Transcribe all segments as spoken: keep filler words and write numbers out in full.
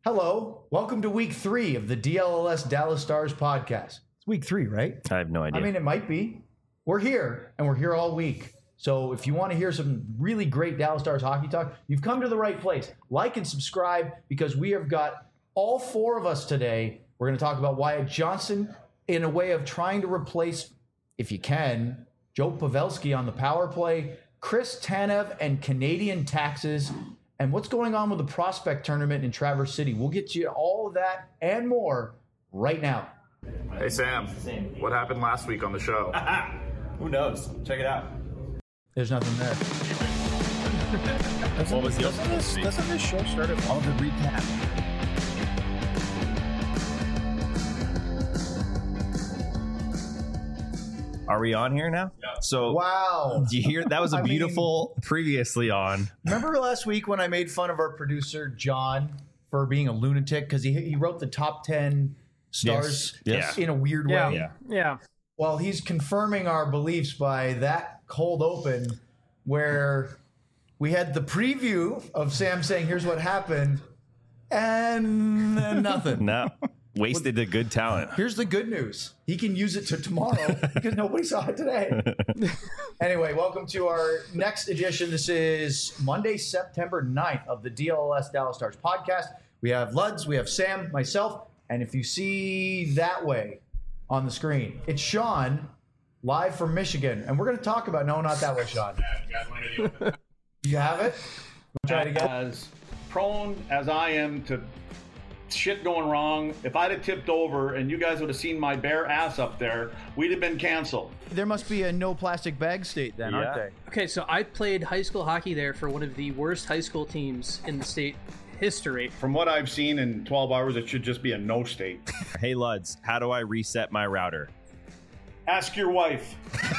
Hello, welcome to week three of the D L L S Dallas Stars podcast. It's week three, right? I have no idea. I mean, it might be. We're here, and we're here all week. So if you want to hear some really great Dallas Stars hockey talk, you've come to the right place. Like and subscribe, because we have got all four of us today. We're going to talk about Wyatt Johnston in a way of trying to replace, if you can, Joe Pavelski on the power play, Chris Tanev and Canadian taxes, and what's going on with the prospect tournament in Traverse City. We'll get you all of that and more right now. Hey, Sam, what happened last week on the show? Who knows? Check it out. There's nothing there. What was the doesn't, this, doesn't this show start at all the recap? Are we on here now? Yeah. So Wow. do you hear that was a I mean- beautiful previously on. Remember last week when I made fun of our producer, John, for being a lunatic because he, he wrote the top ten stars Yes. Yes. in a weird Yeah. way? Yeah. Yeah. Well, he's confirming our beliefs by that cold open where we had the preview of Sam saying, here's what happened, and then nothing. No. Wasted the good talent. Here's the good news. He can use it to tomorrow because nobody saw it today. Anyway, welcome to our next edition. This is Monday, September ninth of the D L L S Dallas Stars podcast. We have Luds, we have Sam, myself, and if you see that way on the screen, it's Sean live from Michigan. And we're going to talk about, no, not that way, Sean. You have it? Try it again. As prone as I am to shit going wrong, if I'd have tipped over and you guys would have seen my bare ass up there, we'd have been canceled. There must be a no plastic bag state then, aren't Yeah. they? Okay, so I played high school hockey there for one of the worst high school teams in the state history. From what I've seen in twelve hours, it should just be a no state. Hey Luds, how do I reset my router? Ask your wife.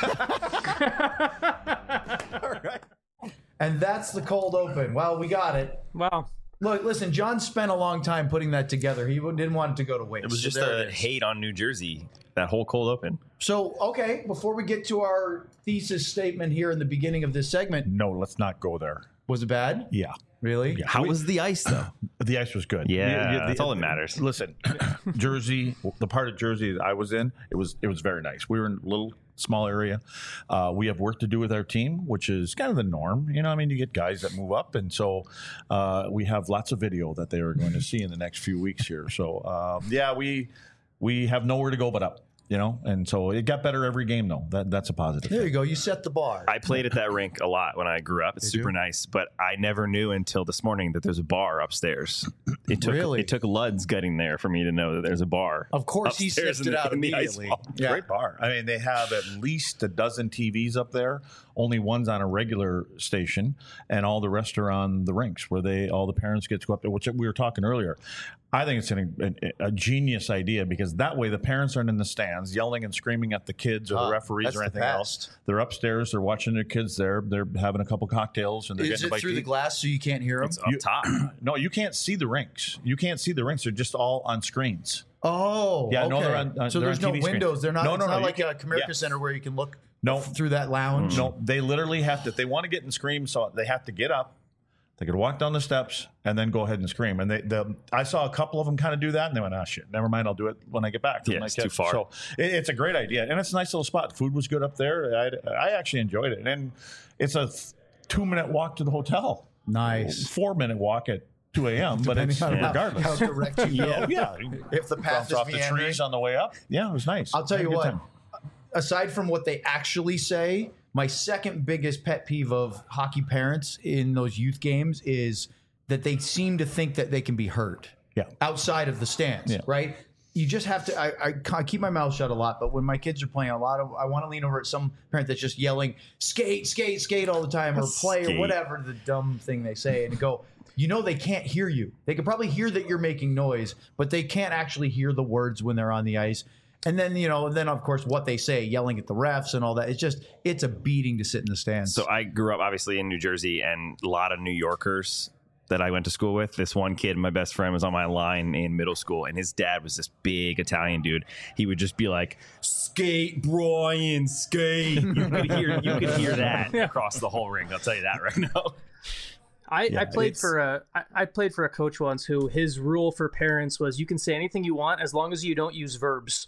And that's the cold open. Well, we got it. Wow. Look, listen, John spent a long time putting that together. He didn't want it to go to waste. It was So just there a it is. hate on New Jersey, that whole cold open. So, okay, before we get to our thesis statement here in the beginning of this segment, No, let's not go there. was it bad? Yeah. Really? Yeah. How was the ice though? The ice was good. Yeah, The- the- that's all that matters. Listen, Jersey, the part of Jersey that I was in, it was it was very nice. We were in a little small area. Uh, we have work to do with our team, which is kind of the norm. You know, I mean, you get guys that move up, and so uh, we have lots of video that they are going to see in the next few weeks here. So um, yeah, we we have nowhere to go but up. You know, and so it got better every game, though. That that's a positive. There thing. you go. You set the bar. I played at that rink a lot when I grew up. It's Did super you? nice, but I never knew until this morning that there's a bar upstairs. It took Really? it took Luds getting there for me to know that there's a bar. Of course, he upstairs sniffed in it the- out in the ice immediately. wall. Yeah. Great bar. I mean, they have at least a dozen T Vs up there. Only one's on a regular station, and all the rest are on the rinks where they all the parents get to go up there. Which we were talking earlier. I think it's an, a, a genius idea because that way the parents aren't in the stands yelling and screaming at the kids or Ah, the referees that's or the anything best. else. They're upstairs. They're watching their kids there. They're having a couple cocktails and they're Is getting a it bite through to the eat. glass so you can't hear him? It's up You- top. No, you can't see the rinks. You can't see the rinks. They're just all on screens. Oh, Yeah, okay. no, they're on- uh, so they're there's on no T V screen. windows. They're not. No, it's no, not no, you like a can't- Comerica yeah. Center where you can look No. through that lounge. No, they literally have to. If they want to get and scream, so they have to get up. They could walk down the steps and then go ahead and scream. And they, the, I saw a couple of them kind of do that, and they went, "Ah, shit, never mind. I'll do it when I get back." from Yeah, my it's kids." too far. So it, it's a great idea, and it's a nice little spot. Food was good up there. I, I actually enjoyed it, and it's a th- two minute walk to the hotel. Nice. Four minute walk at two a.m. But it's Depending on how- regardless. how direct you go. yeah, If the path Bounce is off the meandering. trees on the way up. Yeah, it was nice. I'll tell Had you a good what, time. aside from what they actually say, my second biggest pet peeve of hockey parents in those youth games is that they seem to think that they can be hurt Yeah. outside of the stands, Yeah. right? You just have to, I, I, I keep my mouth shut a lot, but when my kids are playing a lot of, I want to lean over at some parent that's just yelling, skate, skate, skate all the time, or play, Skate. or whatever the dumb thing they say, and go, you know, they can't hear you. They can probably hear that you're making noise, but they can't actually hear the words when they're on the ice. And then, you know, then of course what they say, yelling at the refs and all that. It's just, it's a beating to sit in the stands. So I grew up obviously in New Jersey, and a lot of New Yorkers that I went to school with. This one kid, my best friend, was on my line in middle school, and his dad was this big Italian dude. He would just be like, "Skate, Brian, skate." You could hear, you could hear that across the whole ring. I'll tell you that right now. I, Yeah, I played it's- for a I, I played for a coach once who his rule for parents was you can say anything you want as long as you don't use verbs.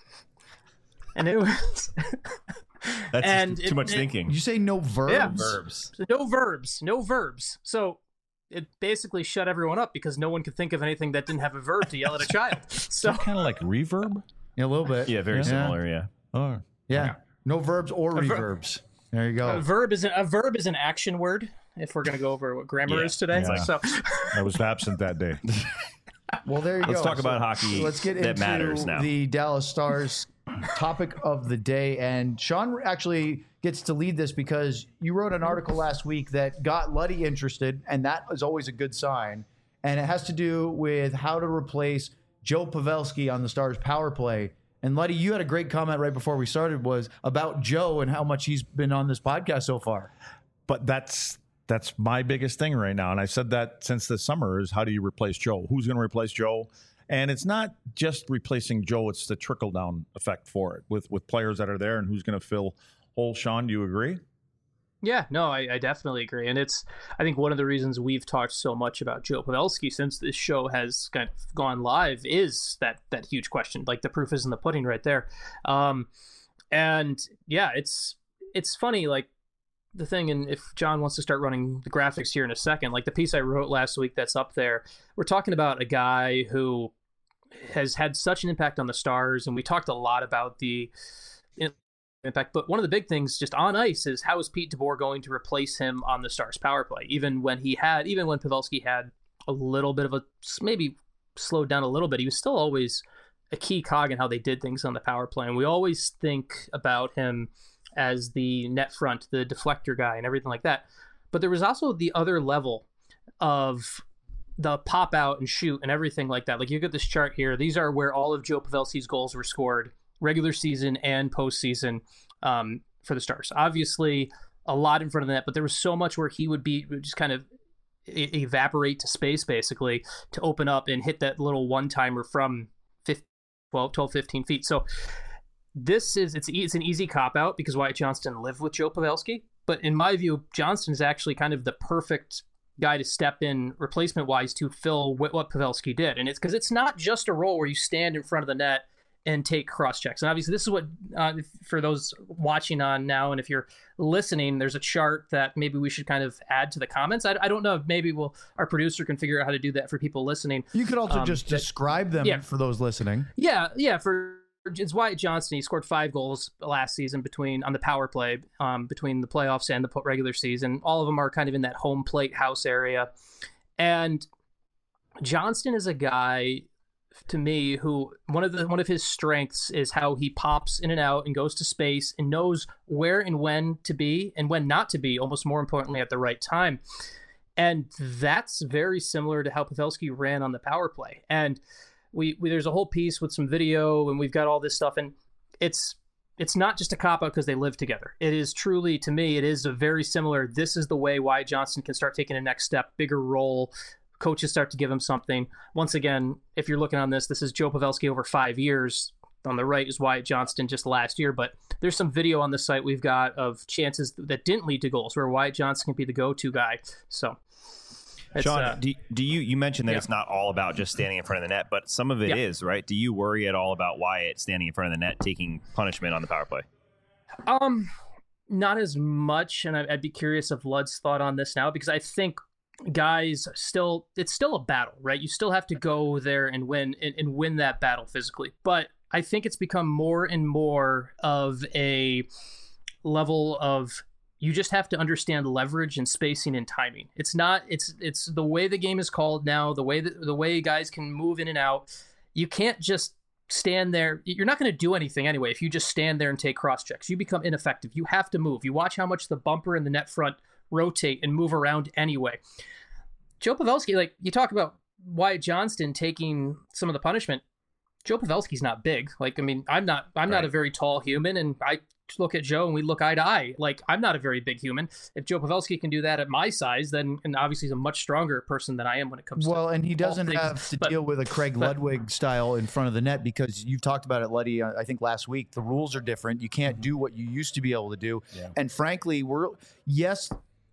And it was That's and too it- much it- thinking. You say no verbs? Yeah. Verbs. no verbs, no verbs. So it basically shut everyone up because no one could think of anything that didn't have a verb to yell at a child. So Kind of like reverb. Yeah, a little bit. Yeah, very Yeah. similar. Yeah. Oh, Yeah. No verbs or ver- reverbs. There you go. a verb is an, a verb is an action word. If we're gonna go over what grammar Yeah, is today, yeah. so I was absent that day. Well, there you Let's go. talk about hockey Let's get that into matters now. the Dallas Stars topic of the day. And Sean actually gets to lead this because you wrote an article last week that got Luddy interested, and that is always a good sign. And it has to do with how to replace Joe Pavelski on the Stars power play. And Luddy, you had a great comment right before we started was about Joe and how much he's been on this podcast so far. But that's that's my biggest thing right now, and I said that since this summer is how do you replace Joe? Who's going to replace Joe? And it's not just replacing Joe; it's the trickle down effect for it with with players that are there and who's going to fill holes. Sean, do you agree? yeah, no, I, I definitely agree, and it's I think one of the reasons we've talked so much about Joe Pavelski since this show has kind of gone live is that that huge question. Like the proof is in the pudding, right there. Um, and yeah, it's it's funny, like. The thing, and if John wants to start running the graphics here in a second, like the piece I wrote last week that's up there, we're talking about a guy who has had such an impact on the Stars, and we talked a lot about the impact, but one of the big things just on ice is how is Pete DeBoer going to replace him on the Stars power play, even when he had, even when Pavelski had a little bit of a, maybe slowed down a little bit, he was still always a key cog in how they did things on the power play, and we always think about him as the net front, the deflector guy, and everything like that. But there was also the other level of the pop out and shoot and everything like that. Like you get this chart here. These are where all of Joe Pavelski's goals were scored, regular season and postseason um, for the Stars. Obviously, a lot in front of the net, but there was so much where he would be would just kind of e- evaporate to space, basically, to open up and hit that little one timer from fifteen, twelve, twelve, fifteen feet. So this is it's it's an easy cop out because Wyatt Johnston lived with Joe Pavelski, but in my view, Johnston is actually kind of the perfect guy to step in replacement wise to fill what, what Pavelski did, and it's because it's not just a role where you stand in front of the net and take cross checks. And obviously, this is what uh, for those watching on now, and if you're listening, there's a chart that maybe we should kind of add to the comments. I, I don't know if maybe we'll our producer can figure out how to do that for people listening. You could also Um, just that- describe them yeah. for those listening. Yeah, yeah. For it's Wyatt Johnston, he scored five goals last season between on the power play um, between the playoffs and the po- regular season. All of them are kind of in that home plate house area. And Johnston is a guy, to me, who one of the one of his strengths is how he pops in and out and goes to space and knows where and when to be and when not to be. Almost more importantly, at the right time. And that's very similar to how Pavelski ran on the power play. And We, we there's a whole piece with some video and we've got all this stuff, and it's it's not just a cop out because they live together. It is truly, to me, it is a very similar. This is the way Wyatt Johnston can start taking a next step, bigger role. Coaches start to give him something. Once again, if you're looking on this, this is Joe Pavelski over five years. On the right is Wyatt Johnston just last year, but there's some video on the site we've got of chances that didn't lead to goals where Wyatt Johnston can be the go-to guy. So. It's, Sean, uh, do, do you you mentioned that yeah. it's not all about just standing in front of the net, but some of it Yeah. is, right? Do you worry at all about Wyatt standing in front of the net taking punishment on the power play? Um, not as much, and I, I'd be curious of Lud's thought on this now because I think guys still it's still a battle, right? You still have to go there and win and, and win that battle physically, but I think it's become more and more of a level of you just have to understand leverage and spacing and timing. It's not it's it's the way the game is called now, the way that the way guys can move in and out. You can't just stand there. You're not going to do anything anyway if you just stand there and take cross checks. You become ineffective. You have to move. You watch how much the bumper and the net front rotate and move around anyway. Joe Pavelski, like you talk about Wyatt Johnston taking some of the punishment. Joe Pavelski's not big. Like, I mean, I'm not I'm not Right. a very tall human, and I look at Joe and we look eye to eye. Like, I'm not a very big human. If Joe Pavelski can do that at my size, then and obviously he's a much stronger person than I am when it comes to Well, and he all doesn't things. have to But- deal with a Craig but- Ludwig style in front of the net because you've talked about it, Luddy, uh, I think last week. The rules are different. You can't do what you used to be able to do. Yeah. And frankly, we're, yes,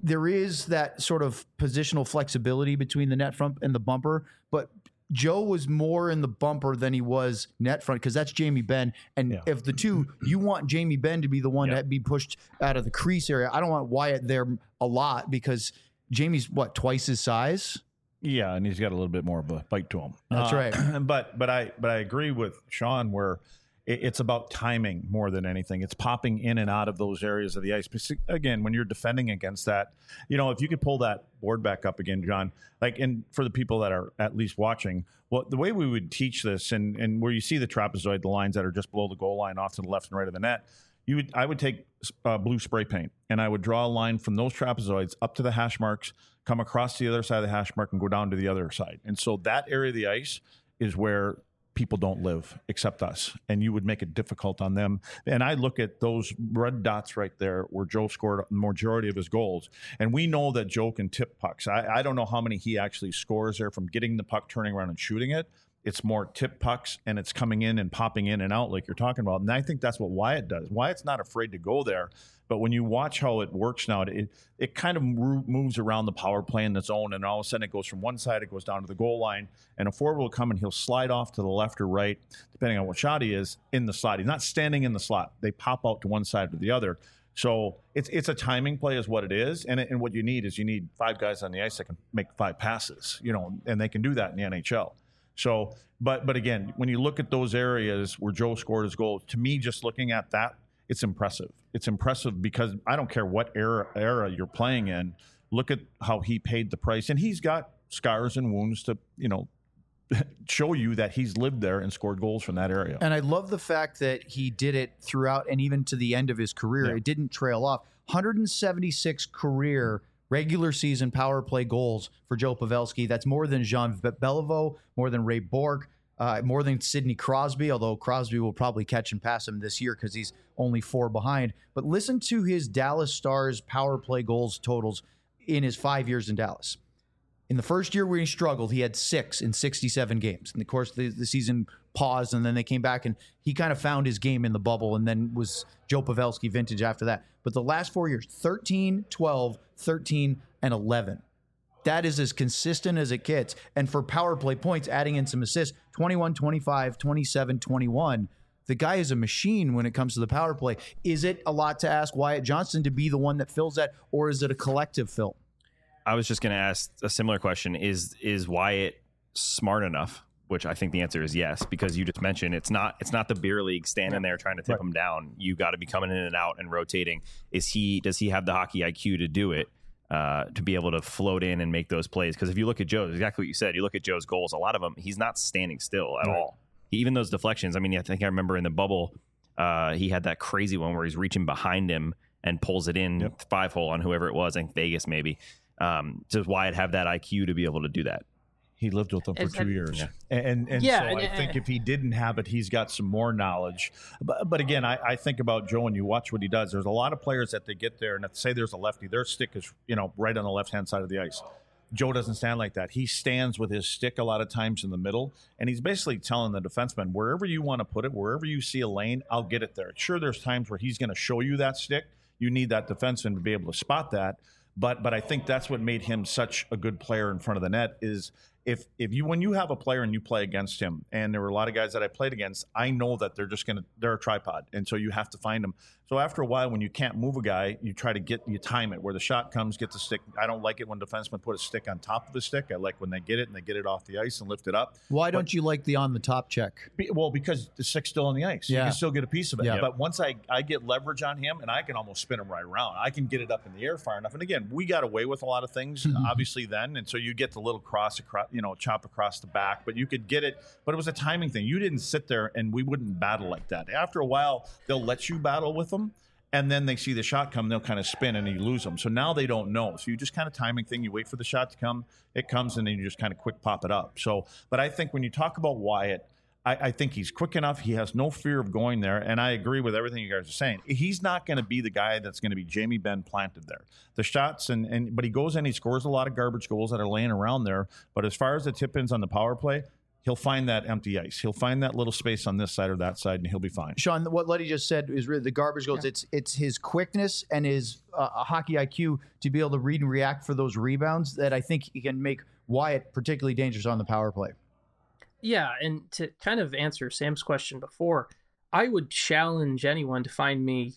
there is that sort of positional flexibility between the net front and the bumper, but Joe was more in the bumper than he was net front because that's Jamie Benn. And Yeah. if the two, you want Jamie Benn to be the one Yeah. that be pushed out of the crease area. I don't want Wyatt there a lot because Jamie's what, twice his size? Yeah, and he's got a little bit more of a bite to him. That's Uh, right. But but I but I agree with Sean where it, it's about timing more than anything. It's popping in and out of those areas of the ice. But again, when you're defending against that, you know, if you could pull that board back up again, John, like, and for the people that are at least watching, well, the way we would teach this, and and where you see the trapezoid, the lines that are just below the goal line, off to the left and right of the net. You would, I would take uh, blue spray paint and I would draw a line from those trapezoids up to the hash marks, come across the other side of the hash mark and go down to the other side. And so that area of the ice is where people don't live except us. And you would make it difficult on them. And I look at those red dots right there where Joe scored the majority of his goals. And we know that Joe can tip pucks. I, I don't know how many he actually scores there from getting the puck, turning around and shooting it. It's more tip pucks, and it's coming in and popping in and out like you're talking about. And I think that's what Wyatt does. Wyatt's not afraid to go there. But when you watch how it works now, it it kind of moves around the power play in the zone, and all of a sudden it goes from one side, it goes down to the goal line, and a forward will come and he'll slide off to the left or right, depending on what shot he is, in the slot. He's not standing in the slot. They pop out to one side or the other. So it's it's a timing play is what it is, and, it, and what you need is you need five guys on the ice that can make five passes, you know, and they can do that in the N H L. So, but but again, when you look at those areas where Joe scored his goal, to me, just looking at that, it's impressive. It's impressive because I don't care what era era you're playing in. Look at how he paid the price, and he's got scars and wounds to, you know, show you that he's lived there and scored goals from that area. And I love the fact that he did it throughout and even to the end of his career. Yeah. It didn't trail off. one hundred seventy-six career regular season power play goals for Joe Pavelski. That's more than Jean Beliveau, more than Ray Bork, uh, more than Sidney Crosby, although Crosby will probably catch and pass him this year because he's only four behind. But listen to his Dallas Stars power play goals totals in his five years in Dallas. In the first year where he struggled, he had six in sixty-seven games. And of course, the, the season paused, and then they came back, and he kind of found his game in the bubble, and then was Joe Pavelski vintage after that. But the last four years, thirteen, twelve, thirteen, and eleven. That is as consistent as it gets. And for power play points, adding in some assists, twenty-one, twenty-five, twenty-seven, twenty-one. The guy is a machine when it comes to the power play. Is it a lot to ask Wyatt Johnston to be the one that fills that, or is it a collective fill? I was just going to ask a similar question. Is is Wyatt smart enough? Which I think the answer is yes, because you just mentioned it's not it's not the beer league standing there trying to tip Right. him down. You got to be coming in and out and rotating. Is he does he have the hockey I Q to do it, uh, to be able to float in and make those plays? Because if you look at Joe, exactly what you said, you look at Joe's goals, a lot of them, he's not standing still at Right. all. Even those deflections. I mean, I think I remember in the bubble, uh, he had that crazy one where he's reaching behind him and pulls it in Yep. five hole on whoever it was, I think Vegas maybe. Um, does Wyatt have that I Q to be able to do that? He lived with them for And- two and- years. Yeah. And and Yeah, so and- I think if he didn't have it, he's got some more knowledge. But, but again, I, I think about Joe and you watch what he does. There's a lot of players that they get there and if say there's a lefty, their stick is, you know, right on the left-hand side of the ice. Joe doesn't stand like that. He stands with his stick a lot of times in the middle, and he's basically telling the defenseman, wherever you want to put it, wherever you see a lane, I'll get it there. Sure, there's times where he's going to show you that stick. You need that defenseman to be able to spot that. But but I think that's what made him such a good player in front of the net is if if you when you have a player and you play against him, and there were a lot of guys that I played against, I know that they're just gonna they're a tripod, and so you have to find them. So after a while, when you can't move a guy, you try to get you time it where the shot comes, get the stick. I don't like it when defensemen put a stick on top of the stick. I like when they get it and they get it off the ice and lift it up. Why don't you like the on the top check? Be- Well, because the stick's still on the ice. You Yeah. can still get a piece of it. Yeah. But once I, I get leverage on him, and I can almost spin him right around. I can get it up in the air far enough. And again, we got away with a lot of things, obviously, then. And so you get the little cross across, you know, chop across the back. But you could get it. But it was a timing thing. You didn't sit there, and we wouldn't battle like that. After a while, they'll let you battle with them. And then they see the shot come, they'll kind of spin and you lose them. So now they don't know. So you just kind of timing thing. You wait for the shot to come, it comes, and then you just kind of quick pop it up. So, but I think when you talk about Wyatt, I, I think he's quick enough. He has no fear of going there. And I agree with everything you guys are saying. He's not going to be the guy that's going to be Jamie Benn planted there. The shots, and, and but he goes in, he scores a lot of garbage goals that are laying around there. But as far as the tip ins on the power play, he'll find that empty ice. He'll find that little space on this side or that side, and he'll be fine. Sean, what Letty just said is really the garbage goes. Yeah. It's it's his quickness and his uh, hockey I Q to be able to read and react for those rebounds that I think he can make Wyatt particularly dangerous on the power play. Yeah, and to kind of answer Sam's question before, I would challenge anyone to find me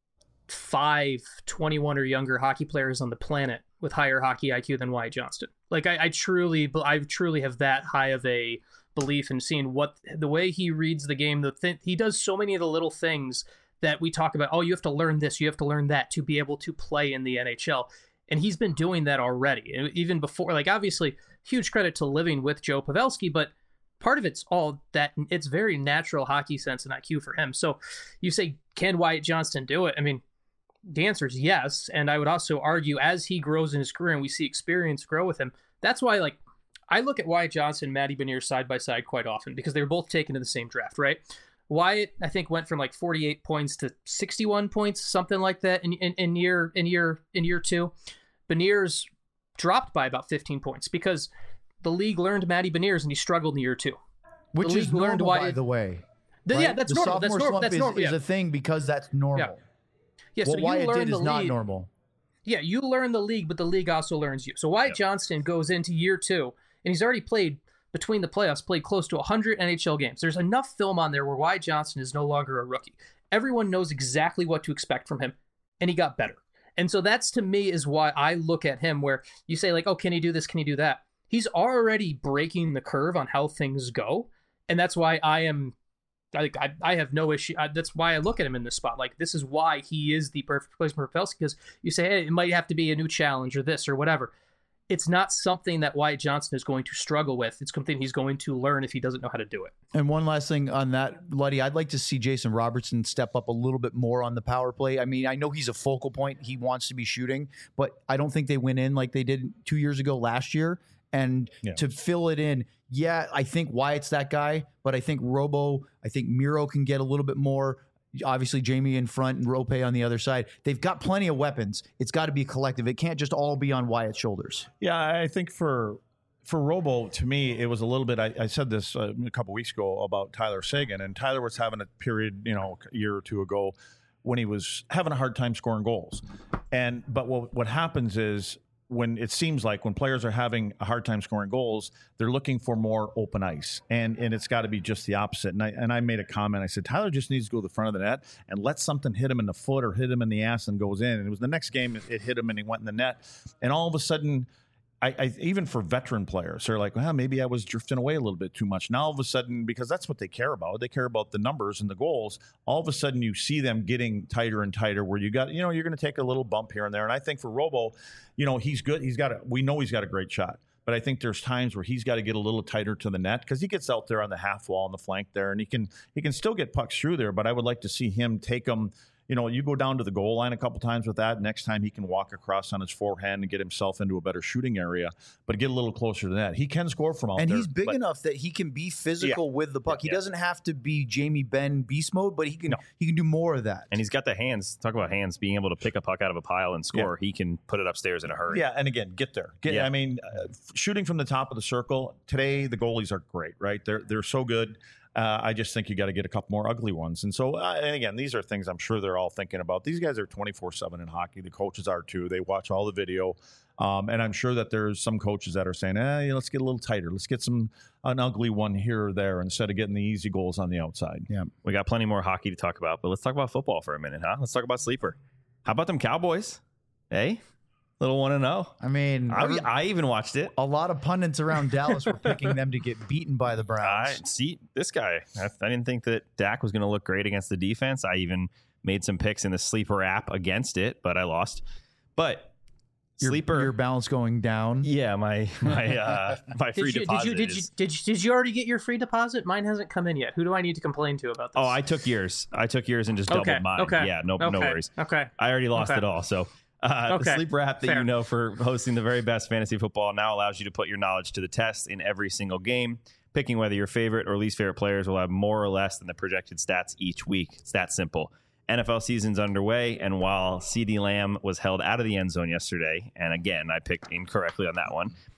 five twenty-one or younger hockey players on the planet with higher hockey I Q than Wyatt Johnston. Like I, I truly, I truly have that high of a belief in seeing what the way he reads the game. The th- he does so many of the little things that we talk about. Oh, you have to learn this, you have to learn that to be able to play in the N H L. And he's been doing that already, even before. Like obviously, huge credit to living with Joe Pavelski, but part of it's all that it's very natural hockey sense and I Q for him. So you say, can Wyatt Johnston do it? I mean, the answer is yes. And I would also argue as he grows in his career and we see experience grow with him, that's why, like, I look at Wyatt Johnston and Matty Beniers side by side quite often because they were both taken in the same draft, right? Wyatt, I think, went from like forty-eight points to sixty-one points, something like that in, in, in year in year in year two. Beniers dropped by about fifteen points because the league learned Matty Beniers and he struggled in year two. Which is normal, Wyatt, by the way. The, right? Yeah, that's the normal. That's normal. That's is, normal. is Yeah. a thing because that's normal. Yeah. Yeah, what so Wyatt you learn did the is not league. normal. Yeah, you learn the league, but the league also learns you. So Wyatt yep. Johnston goes into year two, and he's already played, between the playoffs, played close to one hundred N H L games. There's enough film on there where Wyatt Johnston is no longer a rookie. Everyone knows exactly what to expect from him, and he got better. And so that's, to me, is why I look at him where you say, like, oh, can he do this? Can he do that? He's already breaking the curve on how things go, and that's why I am... I, I I have no issue. I, that's why I look at him in this spot. Like, this is why he is the perfect replacement for Pavelski, because you say, hey, it might have to be a new challenge or this or whatever. It's not something that Wyatt Johnston is going to struggle with. It's something he's going to learn if he doesn't know how to do it. And one last thing on that, Luddy, I'd like to see Jason Robertson step up a little bit more on the power play. I mean, I know he's a focal point. He wants to be shooting, but I don't think they went in like they did two years ago last year. And yeah. to fill it in, yeah, I think Wyatt's that guy, but I think Robo, I think Miro can get a little bit more. Obviously, Jamie in front and Rope on the other side. They've got plenty of weapons. It's got to be collective. It can't just all be on Wyatt's shoulders. Yeah, I think for for Robo, to me, it was a little bit. I, I said this uh, a couple weeks ago about Tyler Seguin, and Tyler was having a period, you know, a year or two ago when he was having a hard time scoring goals. And but what what happens is, when it seems like when players are having a hard time scoring goals, they're looking for more open ice. And and it's got to be just the opposite. And I, and I made a comment. I said, Tyler just needs to go to the front of the net and let something hit him in the foot or hit him in the ass and goes in. And it was the next game, it, it hit him and he went in the net. And all of a sudden, I, I even for veteran players, they're like, well, maybe I was drifting away a little bit too much. Now all of a sudden, because that's what they care about, they care about the numbers and the goals. All of a sudden, you see them getting tighter and tighter. Where you got, you know, you're going to take a little bump here and there. And I think for Robo, you know, he's good. He's got a, we know he's got a great shot, but I think there's times where he's got to get a little tighter to the net because he gets out there on the half wall on the flank there, and he can he can still get pucks through there. But I would like to see him take them. You know, you go down to the goal line a couple times with that. Next time he can walk across on his forehand and get himself into a better shooting area, but get a little closer to that. He can score from out and there. And he's big but, enough that he can be physical yeah. with the puck. He yeah. doesn't have to be Jamie Benn beast mode, but he can no. he can do more of that. And he's got the hands. Talk about hands, being able to pick a puck out of a pile and score. Yeah. He can put it upstairs in a hurry. Yeah, and again, get there. Get, yeah. I mean, uh, shooting from the top of the circle, today the goalies are great, right? They're, they're so good. Uh, I just think you got to get a couple more ugly ones. And so, uh, and again, these are things I'm sure they're all thinking about. These guys are twenty-four seven in hockey. The coaches are too. They watch all the video. Um, and I'm sure that there's some coaches that are saying, eh, you know, let's get a little tighter. Let's get some an ugly one here or there instead of getting the easy goals on the outside. Yeah, we got plenty more hockey to talk about, but let's talk about football for a minute, huh? Let's talk about Sleeper. How about them Cowboys? Hey? Little one and oh. I mean, I, every, I even watched it. A lot of pundits around Dallas were picking them to get beaten by the Browns. I see this guy. I, I didn't think that Dak was going to look great against the defense. I even made some picks in the Sleeper app against it, but I lost. But your, Sleeper, your balance going down. Yeah, my my uh, my free did you, deposit. Did you did, is, you did you did you already get your free deposit? Mine hasn't come in yet. Who do I need to complain to about this? Oh, I took yours. I took yours and just okay, doubled mine. Okay. Yeah, no okay. no worries. Okay. I already lost okay. it all. So. Uh, okay. The Sleeper app that Fair. you know for hosting the very best fantasy football now allows you to put your knowledge to the test in every single game. Picking whether your favorite or least favorite players will have more or less than the projected stats each week. It's that simple. N F L season's underway, and while CeeDee Lamb was held out of the end zone yesterday, and again, I picked incorrectly on that one,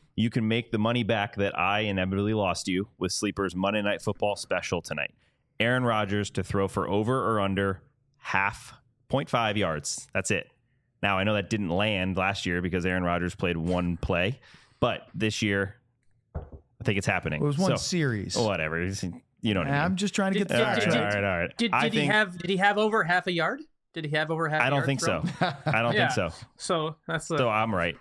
You can make the money back that I inevitably lost you with Sleeper's Monday Night Football special tonight. Aaron Rodgers to throw for over or under half point five yards. That's it. Now, I know that didn't land last year because Aaron Rodgers played one play, but this year, I think it's happening. It was one So, series. Whatever. You know what I mean. I'm just trying to get Did- the all right, facts did- all right. right, all right. Did, I did he think, have did he have over half a yard? Did he have over half? I a don't yard think thrown? so. I don't Yeah. think so. So that's the So I'm right.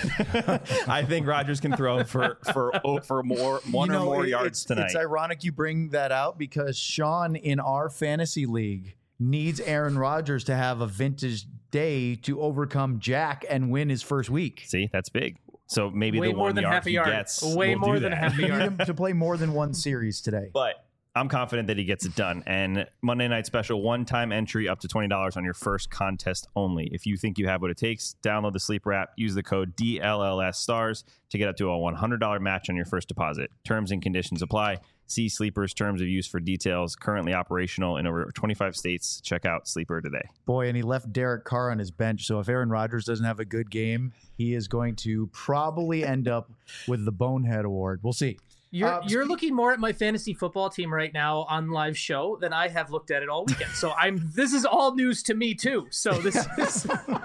I think Rodgers can throw for for oh, for more one You know, or more it- yards it's, tonight. It's ironic you bring that out because Sean in our fantasy league needs Aaron Rodgers to have a vintage day to overcome Jack and win his first week. See, that's big. So maybe way the more one than yard half a he yard. gets Way will more do than that. half a You need yard. him to play more than one series today. But I'm confident that he gets it done. And Monday Night Special, one-time entry up to twenty dollars on your first contest only. If you think you have what it takes, download the Sleeper app, use the code D L L S STARS to get up to a one hundred dollars match on your first deposit. Terms and conditions apply. See Sleeper's terms of use for details. Currently operational in over twenty-five states. Check out Sleeper today. Boy, and he left Derek Carr on his bench. So if Aaron Rodgers doesn't have a good game, he is going to probably end up with the Bonehead Award. We'll see. You're Uh, you're looking more at my fantasy football team right now on live show than I have looked at it all weekend. So I'm this is all news to me too. So this is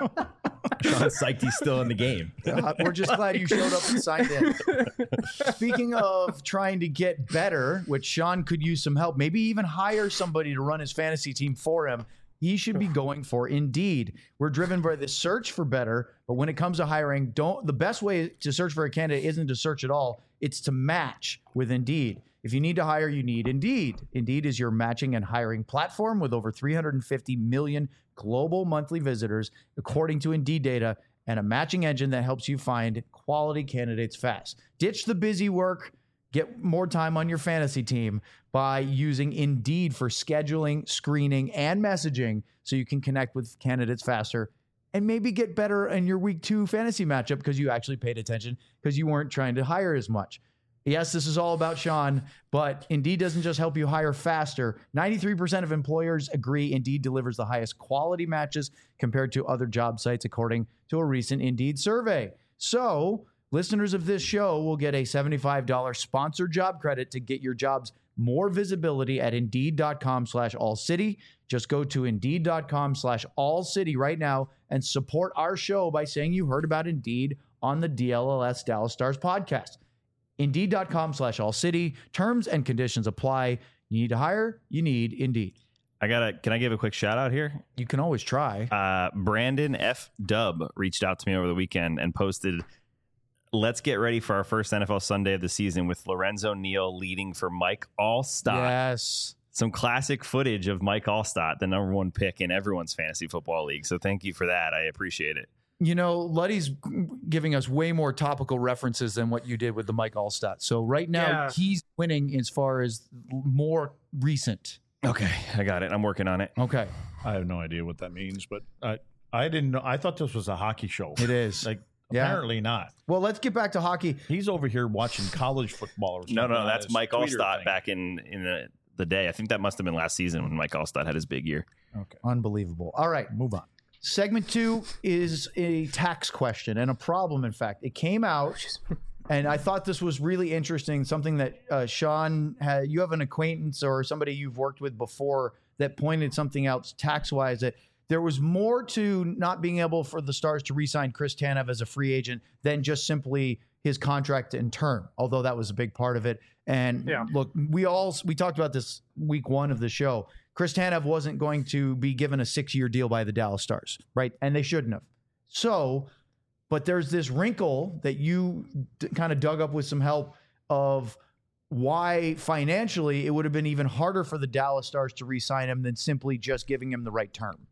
Sean's psyched he's still in the game. Uh, we're just glad you showed up and signed in. Speaking of trying to get better, which Sean could use some help, maybe even hire somebody to run his fantasy team for him. He should be going for Indeed. We're driven by the search for better, but when it comes to hiring, don't the best way to search for a candidate isn't to search at all. It's to match with Indeed. If you need to hire, you need Indeed. Indeed is your matching and hiring platform with over three hundred fifty million global monthly visitors, according to Indeed data, and a matching engine that helps you find quality candidates fast. Ditch the busy work. Get more time on your fantasy team by using Indeed for scheduling, screening, and messaging so you can connect with candidates faster and maybe get better in your week two fantasy matchup because you actually paid attention because you weren't trying to hire as much. Yes, this is all about Sean, but Indeed doesn't just help you hire faster. ninety-three percent of employers agree Indeed delivers the highest quality matches compared to other job sites, according to a recent Indeed survey. So, listeners of this show will get a seventy-five dollars sponsored job credit to get your jobs more visibility at Indeed.com slash All City. Just go to Indeed.com slash All City right now and support our show by saying you heard about Indeed on the D L L S Dallas Stars podcast. Indeed.com slash All City. Terms and conditions apply. You need to hire? You need Indeed. I gotta. Can I give a quick shout out here? You can always try. Uh, Brandon F. Dub reached out to me over the weekend and posted, "Let's get ready for our first N F L Sunday of the season with Lorenzo Neal leading for Mike Allstott." Yes. Some classic footage of Mike Allstott, the number one pick in everyone's fantasy football league. So thank you for that. I appreciate it. You know, Luddy's giving us way more topical references than what you did with the Mike Allstott. So right now, Yeah. he's winning as far as more recent. Okay, I got it. I'm working on it. Okay. I have no idea what that means, but I I didn't know. I thought this was a hockey show. It is. Like Yeah. apparently not. Well, let's get back to hockey. He's over here watching college football. Or No, something no, on that's his Mike Twitter Allstott thing. back in in the, the day. I think that must have been last season when Mike Allstott had his big year. Okay, Unbelievable. All right. move on. Segment two is a tax question and a problem, in fact. It came out, and I thought this was really interesting, something that uh, Sean, had, you have an acquaintance or somebody you've worked with before that pointed something out tax-wise, that there was more to not being able for the Stars to re-sign Chris Tanev as a free agent than just simply his contract and term, although that was a big part of it. And Yeah. look, we all, we talked about this week one of the show. Chris Tanev wasn't going to be given a six-year deal by the Dallas Stars, right? And they shouldn't have. So, but there's this wrinkle that you d- kind of dug up with some help of why financially it would have been even harder for the Dallas Stars to re-sign him than simply just giving him the right term.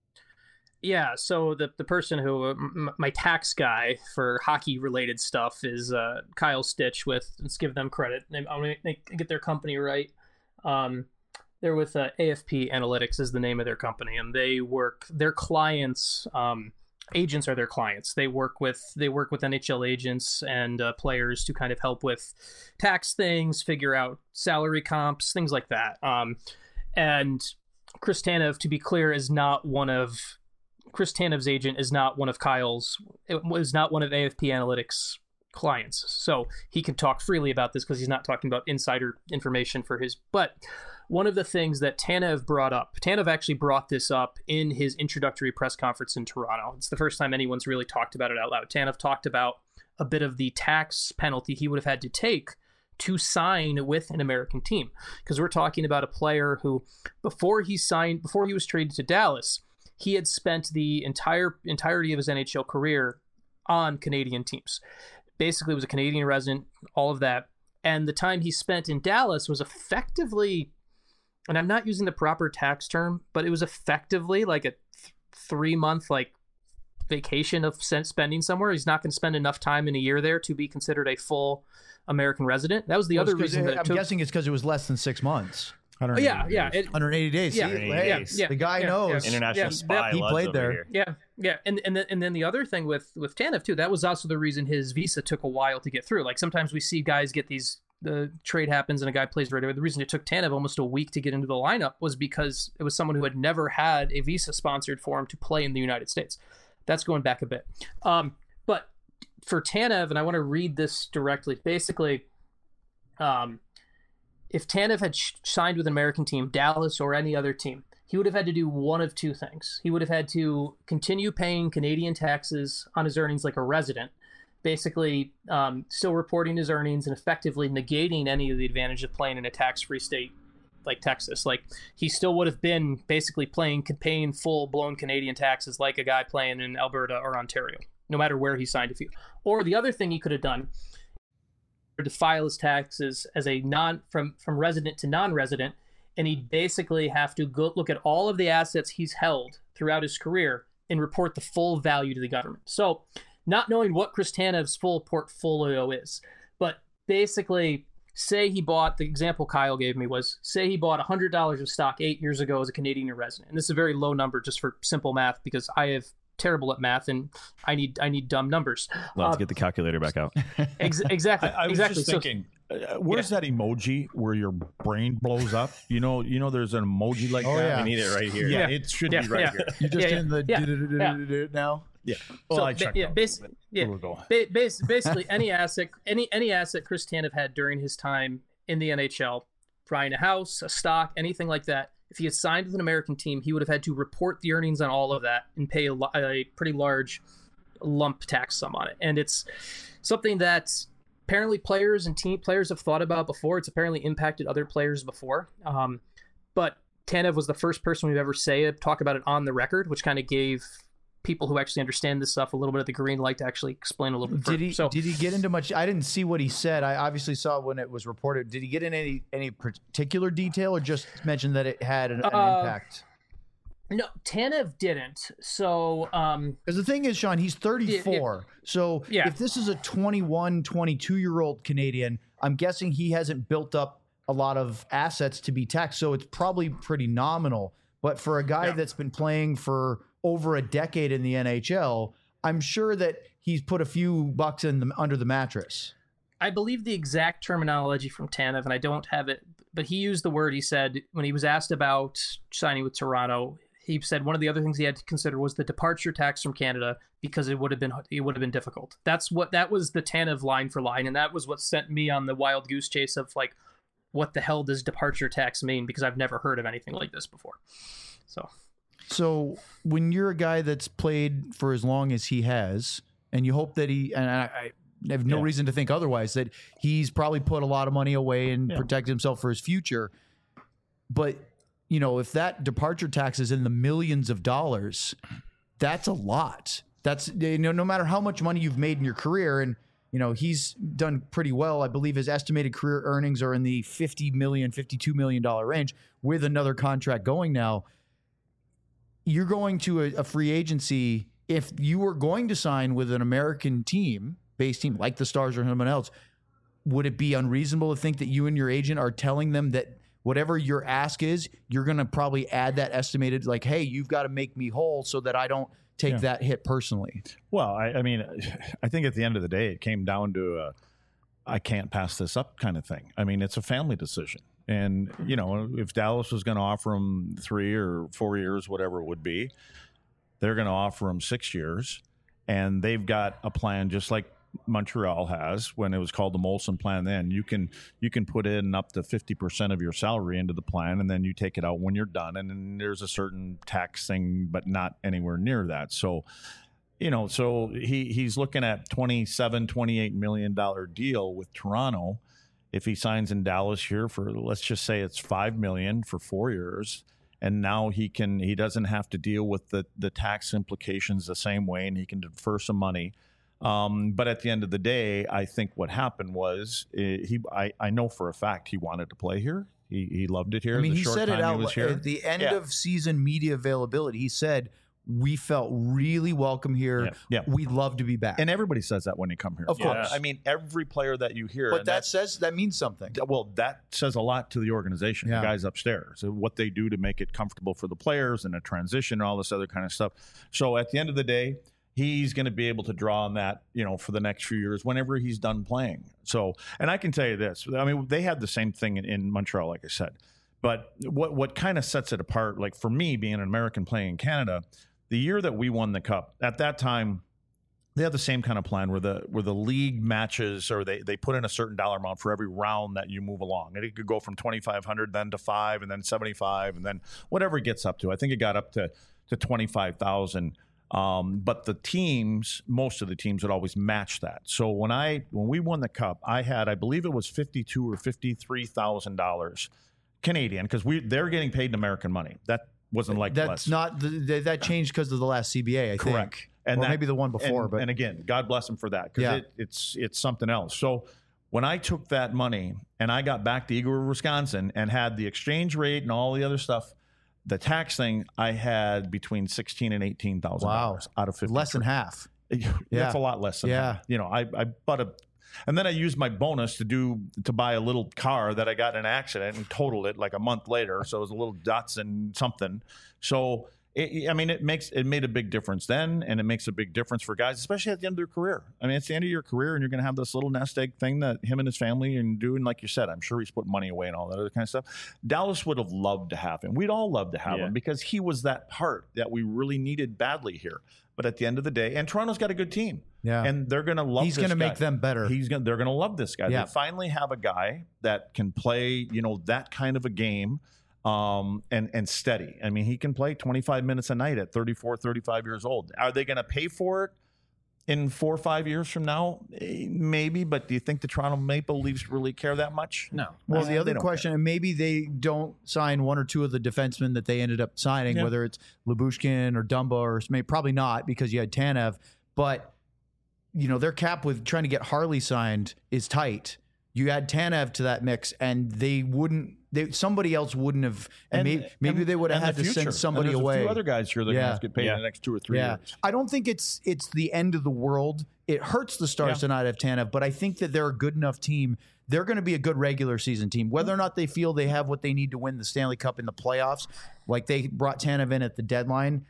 Yeah, so the the person who m- my tax guy for hockey related stuff is uh, Kyle Stitch with, let's give them credit. I'm going to get their company right. Um, they're with uh, A F P Analytics is the name of their company, and they work their clients. Um, agents are their clients. They work with they work with N H L agents and uh, players to kind of help with tax things, figure out salary comps, things like that. Um, and Chris Tanev, to be clear, is not one of Chris Tanev's agent is not one of Kyle's. It was not one of A F P Analytics' clients. So he can talk freely about this because he's not talking about insider information for his. But one of the things that Tanev brought up, Tanev actually brought this up in his introductory press conference in Toronto. It's the first time anyone's really talked about it out loud. Tanev talked about a bit of the tax penalty he would have had to take to sign with an American team. Because we're talking about a player who, before he signed, before he was traded to Dallas, he had spent the entire entirety of his N H L career on Canadian teams. Basically was a Canadian resident, all of that. And the time he spent in Dallas was effectively, and I'm not using the proper tax term, but it was effectively like a th- three month like vacation of spending somewhere. He's not going to spend enough time in a year there to be considered a full American resident. That was the Well, other reason it, that it I'm took, guessing it's because it was less than six months. Oh, yeah, yeah, it, one hundred eighty days. Yeah, See, yeah, hey, yeah, the guy yeah, knows. yeah. International Yeah, spy. that- he Luds played over there. here. Yeah, yeah, and and then, and then the other thing with with Tanev too, that was also the reason his visa took a while to get through. Like sometimes we see guys get these, the trade happens and a guy plays right away. The reason it took Tanev almost a week to get into the lineup was because it was someone who had never had a visa sponsored for him to play in the United States. That's going back a bit. Um, but for Tanev, and I want to read this directly. Basically, um, if Tanev had sh- signed with an American team, Dallas or any other team, he would have had to do one of two things. He would have had to continue paying Canadian taxes on his earnings like a resident, basically um, still reporting his earnings and effectively negating any of the advantage of playing in a tax-free state like Texas. Like he still would have been basically playing, paying full-blown Canadian taxes like a guy playing in Alberta or Ontario, no matter where he signed a few. Or the other thing he could have done to file his taxes as a non from from resident to non-resident, and he'd basically have to go look at all of the assets he's held throughout his career and report the full value to the government. So not knowing what Chris Tanev's full portfolio is, but basically say he bought, the example Kyle gave me was, say he bought one hundred dollars of stock eight years ago as a Canadian resident. And this is a very low number just for simple math because I have terrible at math and I need I need dumb numbers. Let's Uh, get the calculator back out. ex- exactly. I, I was exactly. just So- thinking, uh, where's that emoji where your brain blows up? You know, you know, there's an emoji like Oh, that. yeah. We need it right here. Yeah, Yeah. it should Yeah, be right yeah. here. You just Yeah, in the yeah, do-do-do-do-do-do now? Yeah. Well, So, I ba- checked. yeah, out. bas- yeah. We'll go. Ba- bas- basically, any asset, any any asset Chris Tanev had during his time in the N H L, buying a house, a stock, anything like that. If he had signed with an American team, he would have had to report the earnings on all of that and pay a, lo- a pretty large lump tax sum on it. And it's something that apparently players and team players have thought about before. It's apparently impacted other players before. Um, but Tanev was the first person we've ever say talk about it on the record, which kind of gave people who actually understand this stuff a little bit of the green light to actually explain a little bit further. Did he so, did he get into much? I didn't see what he said. I obviously saw when it was reported. Did he get in any any particular detail, or just mention that it had an, an Uh, impact? no, Tanev didn't. So, um, Because the thing is, Sean, he's thirty-four. So Yeah. if this is a twenty-one, twenty-two-year-old Canadian, I'm guessing he hasn't built up a lot of assets to be taxed. So it's probably pretty nominal. But for a guy Yeah. that's been playing for over a decade in the N H L, I'm sure that he's put a few bucks in the, under the mattress. I believe the exact terminology from Tanev, and I don't have it, but he used the word, he said, when he was asked about signing with Toronto, he said one of the other things he had to consider was the departure tax from Canada because it would have been it would have been difficult. That's what that was the Tanev line for line, and that was what sent me on the wild goose chase of like, what the hell does departure tax mean? Because I've never heard of anything like this before. So So when you're a guy that's played for as long as he has, and you hope that he, and I, I have no Yeah. reason to think otherwise, that he's probably put a lot of money away and Yeah. protected himself for his future. But, you know, if that departure tax is in the millions of dollars, that's a lot. That's, you know, no matter how much money you've made in your career, and, you know, he's done pretty well. I believe his estimated career earnings are in the fifty million, fifty-two million dollars range with another contract going now. You're going to a, a free agency. If you were going to sign with an American team, base team like the Stars or someone else, would it be unreasonable to think that you and your agent are telling them that whatever your ask is, you're going to probably add that estimated, like, hey, you've got to make me whole so that I don't take Yeah. that hit personally? Well, I, I mean, I think at the end of the day, it came down to a, I can't pass this up kind of thing. I mean, it's a family decision. And, you know, if Dallas was going to offer him three or four years, whatever it would be, they're going to offer him six years. And they've got a plan just like Montreal has when it was called the Molson plan. Then you can you can put in up to fifty percent of your salary into the plan, and then you take it out when you're done. And then there's a certain tax thing, but not anywhere near that. So, you know, so he he's looking at twenty-seven, twenty-eight million dollar deal with Toronto. If he signs in Dallas here for, let's just say it's five million for four years, and now he can he doesn't have to deal with the the tax implications the same way, and he can defer some money. Um, but at the end of the day, I think what happened was uh, he. I, I know for a fact he wanted to play here. He he loved it here. I mean, the he short said it time out he was here. at the end Yeah. of season media availability. He said, "We felt really welcome here. Yeah. Yeah. We'd love to be back." And everybody says that when they come here. Of course. I mean, every player that you hear. but and that that's- says that means something. Well, that says a lot to the organization, Yeah. the guys upstairs, and what they do to make it comfortable for the players and a transition and all this other kind of stuff. So at the end of the day, he's going to be able to draw on that, you know, for the next few years whenever he's done playing. So, and I can tell you this, I mean, they had the same thing in, in Montreal, like I said, but what, what kind of sets it apart, like for me being an American playing in Canada, the year that we won the cup, at that time, they had the same kind of plan where the where the league matches, or they, they put in a certain dollar amount for every round that you move along. And it could go from twenty-five hundred then to five, and then seventy-five, and then whatever it gets up to. I think it got up to, to twenty-five thousand. Um, but the teams, most of the teams would always match that. So when I when we won the cup, I had, I believe it was fifty-two or fifty-three thousand dollars Canadian, because we they're getting paid in American money. That wasn't like That's less. not the, that changed because of the last C B A. I Correct. think, And or that- maybe the one before. and, but and again, God bless him for that, because Yeah. it, it's it's something else. So when I took that money and I got back to Eagle River, Wisconsin, and had the exchange rate and all the other stuff, the tax thing, I had between sixteen and eighteen thousand wow, dollars out of fifty. less than half. That's Yeah. a lot less than Yeah. that. You know, I, I bought a, and then I used my bonus to do to buy a little car that I got in an accident and totaled it like a month later. So it was a little Datsun something. So it, I mean, it makes it made a big difference then, and it makes a big difference for guys, especially at the end of their career. I mean, it's the end of your career, and you're going to have this little nest egg thing that him and his family and doing, like you said. I'm sure he's put money away and all that other kind of stuff. Dallas would have loved to have him. We'd all love to have Yeah. him because he was that part that we really needed badly here. But at the end of the day, and Toronto's got a good team. Yeah. And they're going to love He's this going to guy. make them better. He's going to they're going to love this guy. Yeah. They finally have a guy that can play, you know, that kind of a game um and and steady. I mean, he can play twenty-five minutes a night at thirty-four, thirty-five years old. Are they going to pay for it in four or five years from now? Eh, Maybe, but do you think the Toronto Maple Leafs really care that much? No. Well, Eh, the they other don't question, and maybe they don't sign one or two of the defensemen that they ended up signing, Yeah. whether it's Lyubushkin or Dumba, or maybe probably not because you had Tanev. But you know, their cap with trying to get Harley signed is tight. You add Tanev to that mix, and they wouldn't. They, somebody else wouldn't have. And, maybe, maybe and- they would have and had the to future. send somebody and there's away. A few other guys here that are Yeah. going to have to get paid Yeah. in the next two or three Yeah, years. I don't think it's it's the end of the world. It hurts the Stars Yeah. to not have Tanev, but I think that they're a good enough team. They're going to be a good regular season team. Whether or not they feel they have what they need to win the Stanley Cup in the playoffs, like they brought Tanev in at the deadline,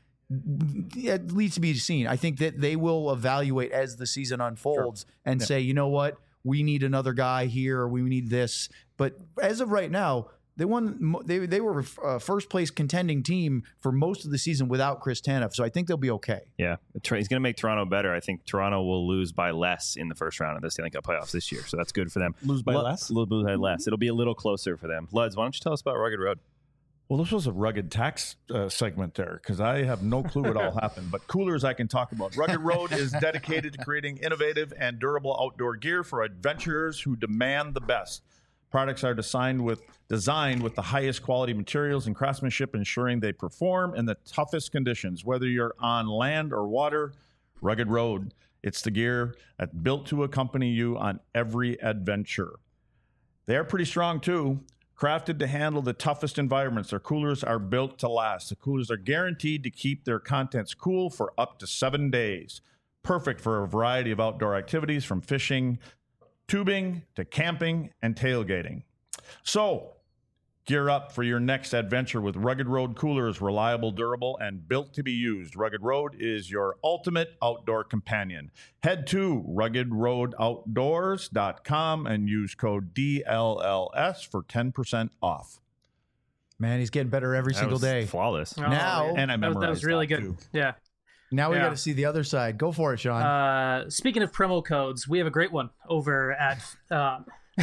it needs to be seen. I think that they will evaluate as the season unfolds and say, you know what, we need another guy here, or we need this. But as of right now, they won. They they were a first place contending team for most of the season without Chris Tanev, so I think they'll be okay. Yeah, he's going to make Toronto better. I think Toronto will lose by less in the first round of the Stanley Cup playoffs this year, so that's good for them. Lose by Lu- less? Lose by less. It'll be a little closer for them. Luds, why don't you tell us about Rugged Road? Well, this was a rugged tax uh, segment there, because I have no clue what all happened. But coolers I can talk about. Rugged Road is dedicated to creating innovative and durable outdoor gear for adventurers who demand the best. Products are designed with designed with the highest quality materials and craftsmanship, ensuring they perform in the toughest conditions. Whether you're on land or water, Rugged Road, it's the gear that's built to accompany you on every adventure. They're pretty strong too. Crafted to handle the toughest environments, their coolers are built to last. The coolers are guaranteed to keep their contents cool for up to seven days. Perfect for a variety of outdoor activities, from fishing, tubing, to camping and tailgating. So, gear up for your next adventure with Rugged Road coolers, reliable, durable, and built to be used. Rugged Road is your ultimate outdoor companion. Head to rugged road outdoors dot com and use code D L L S for ten percent off. Man, he's getting better every That single was day. flawless. Oh, Now- yeah. And I that was, that was memorized really that, good. too. Yeah. Now we Yeah. got to see the other side. Go for it, Sean. Uh, speaking of promo codes, we have a great one over at. Uh,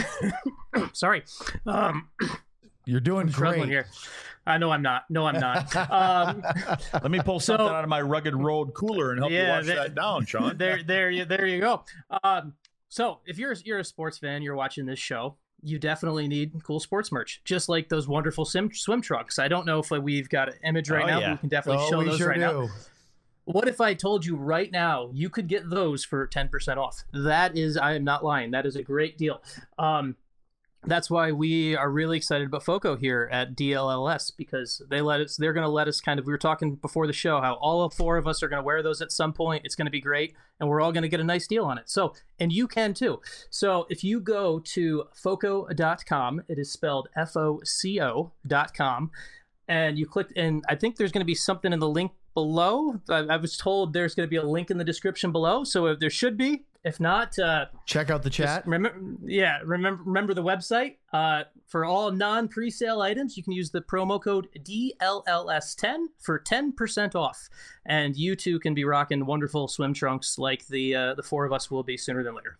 sorry, um, You're doing struggling great. here. I know I'm not. No, I'm not. Um, Let me pull So- something out of my rugged road cooler and help Yeah, you wash that- that down, Sean. there, there, you, there you go. Um, so if you're you're a sports fan, you're watching this show, you definitely need cool sports merch, just like those wonderful swim swim trunks. I don't know if we've got an image right Oh, now, yeah. but we can definitely Oh, show we those sure right do. now. What if I told you right now you could get those for ten percent off? That is, I am not lying. That is a great deal. Um, that's why we are really excited about FOCO here at D L L S, because they let us, they're going to let us kind of, we were talking before the show, how all four of us are going to wear those at some point. It's going to be great. And we're all going to get a nice deal on it. So, and you can too. So if you go to foco dot com, it is spelled F O C O dot com, and you click, and I think there's going to be something in the link below. I, I was told there's going to be a link in the description below. So if there should be, if not, uh, Check out the chat. just remember, yeah, remember remember the website. Uh, for all non pre-sale items, you can use the promo code D L L S ten for ten percent off, and you too can be rocking wonderful swim trunks like the uh, the four of us will be sooner than later.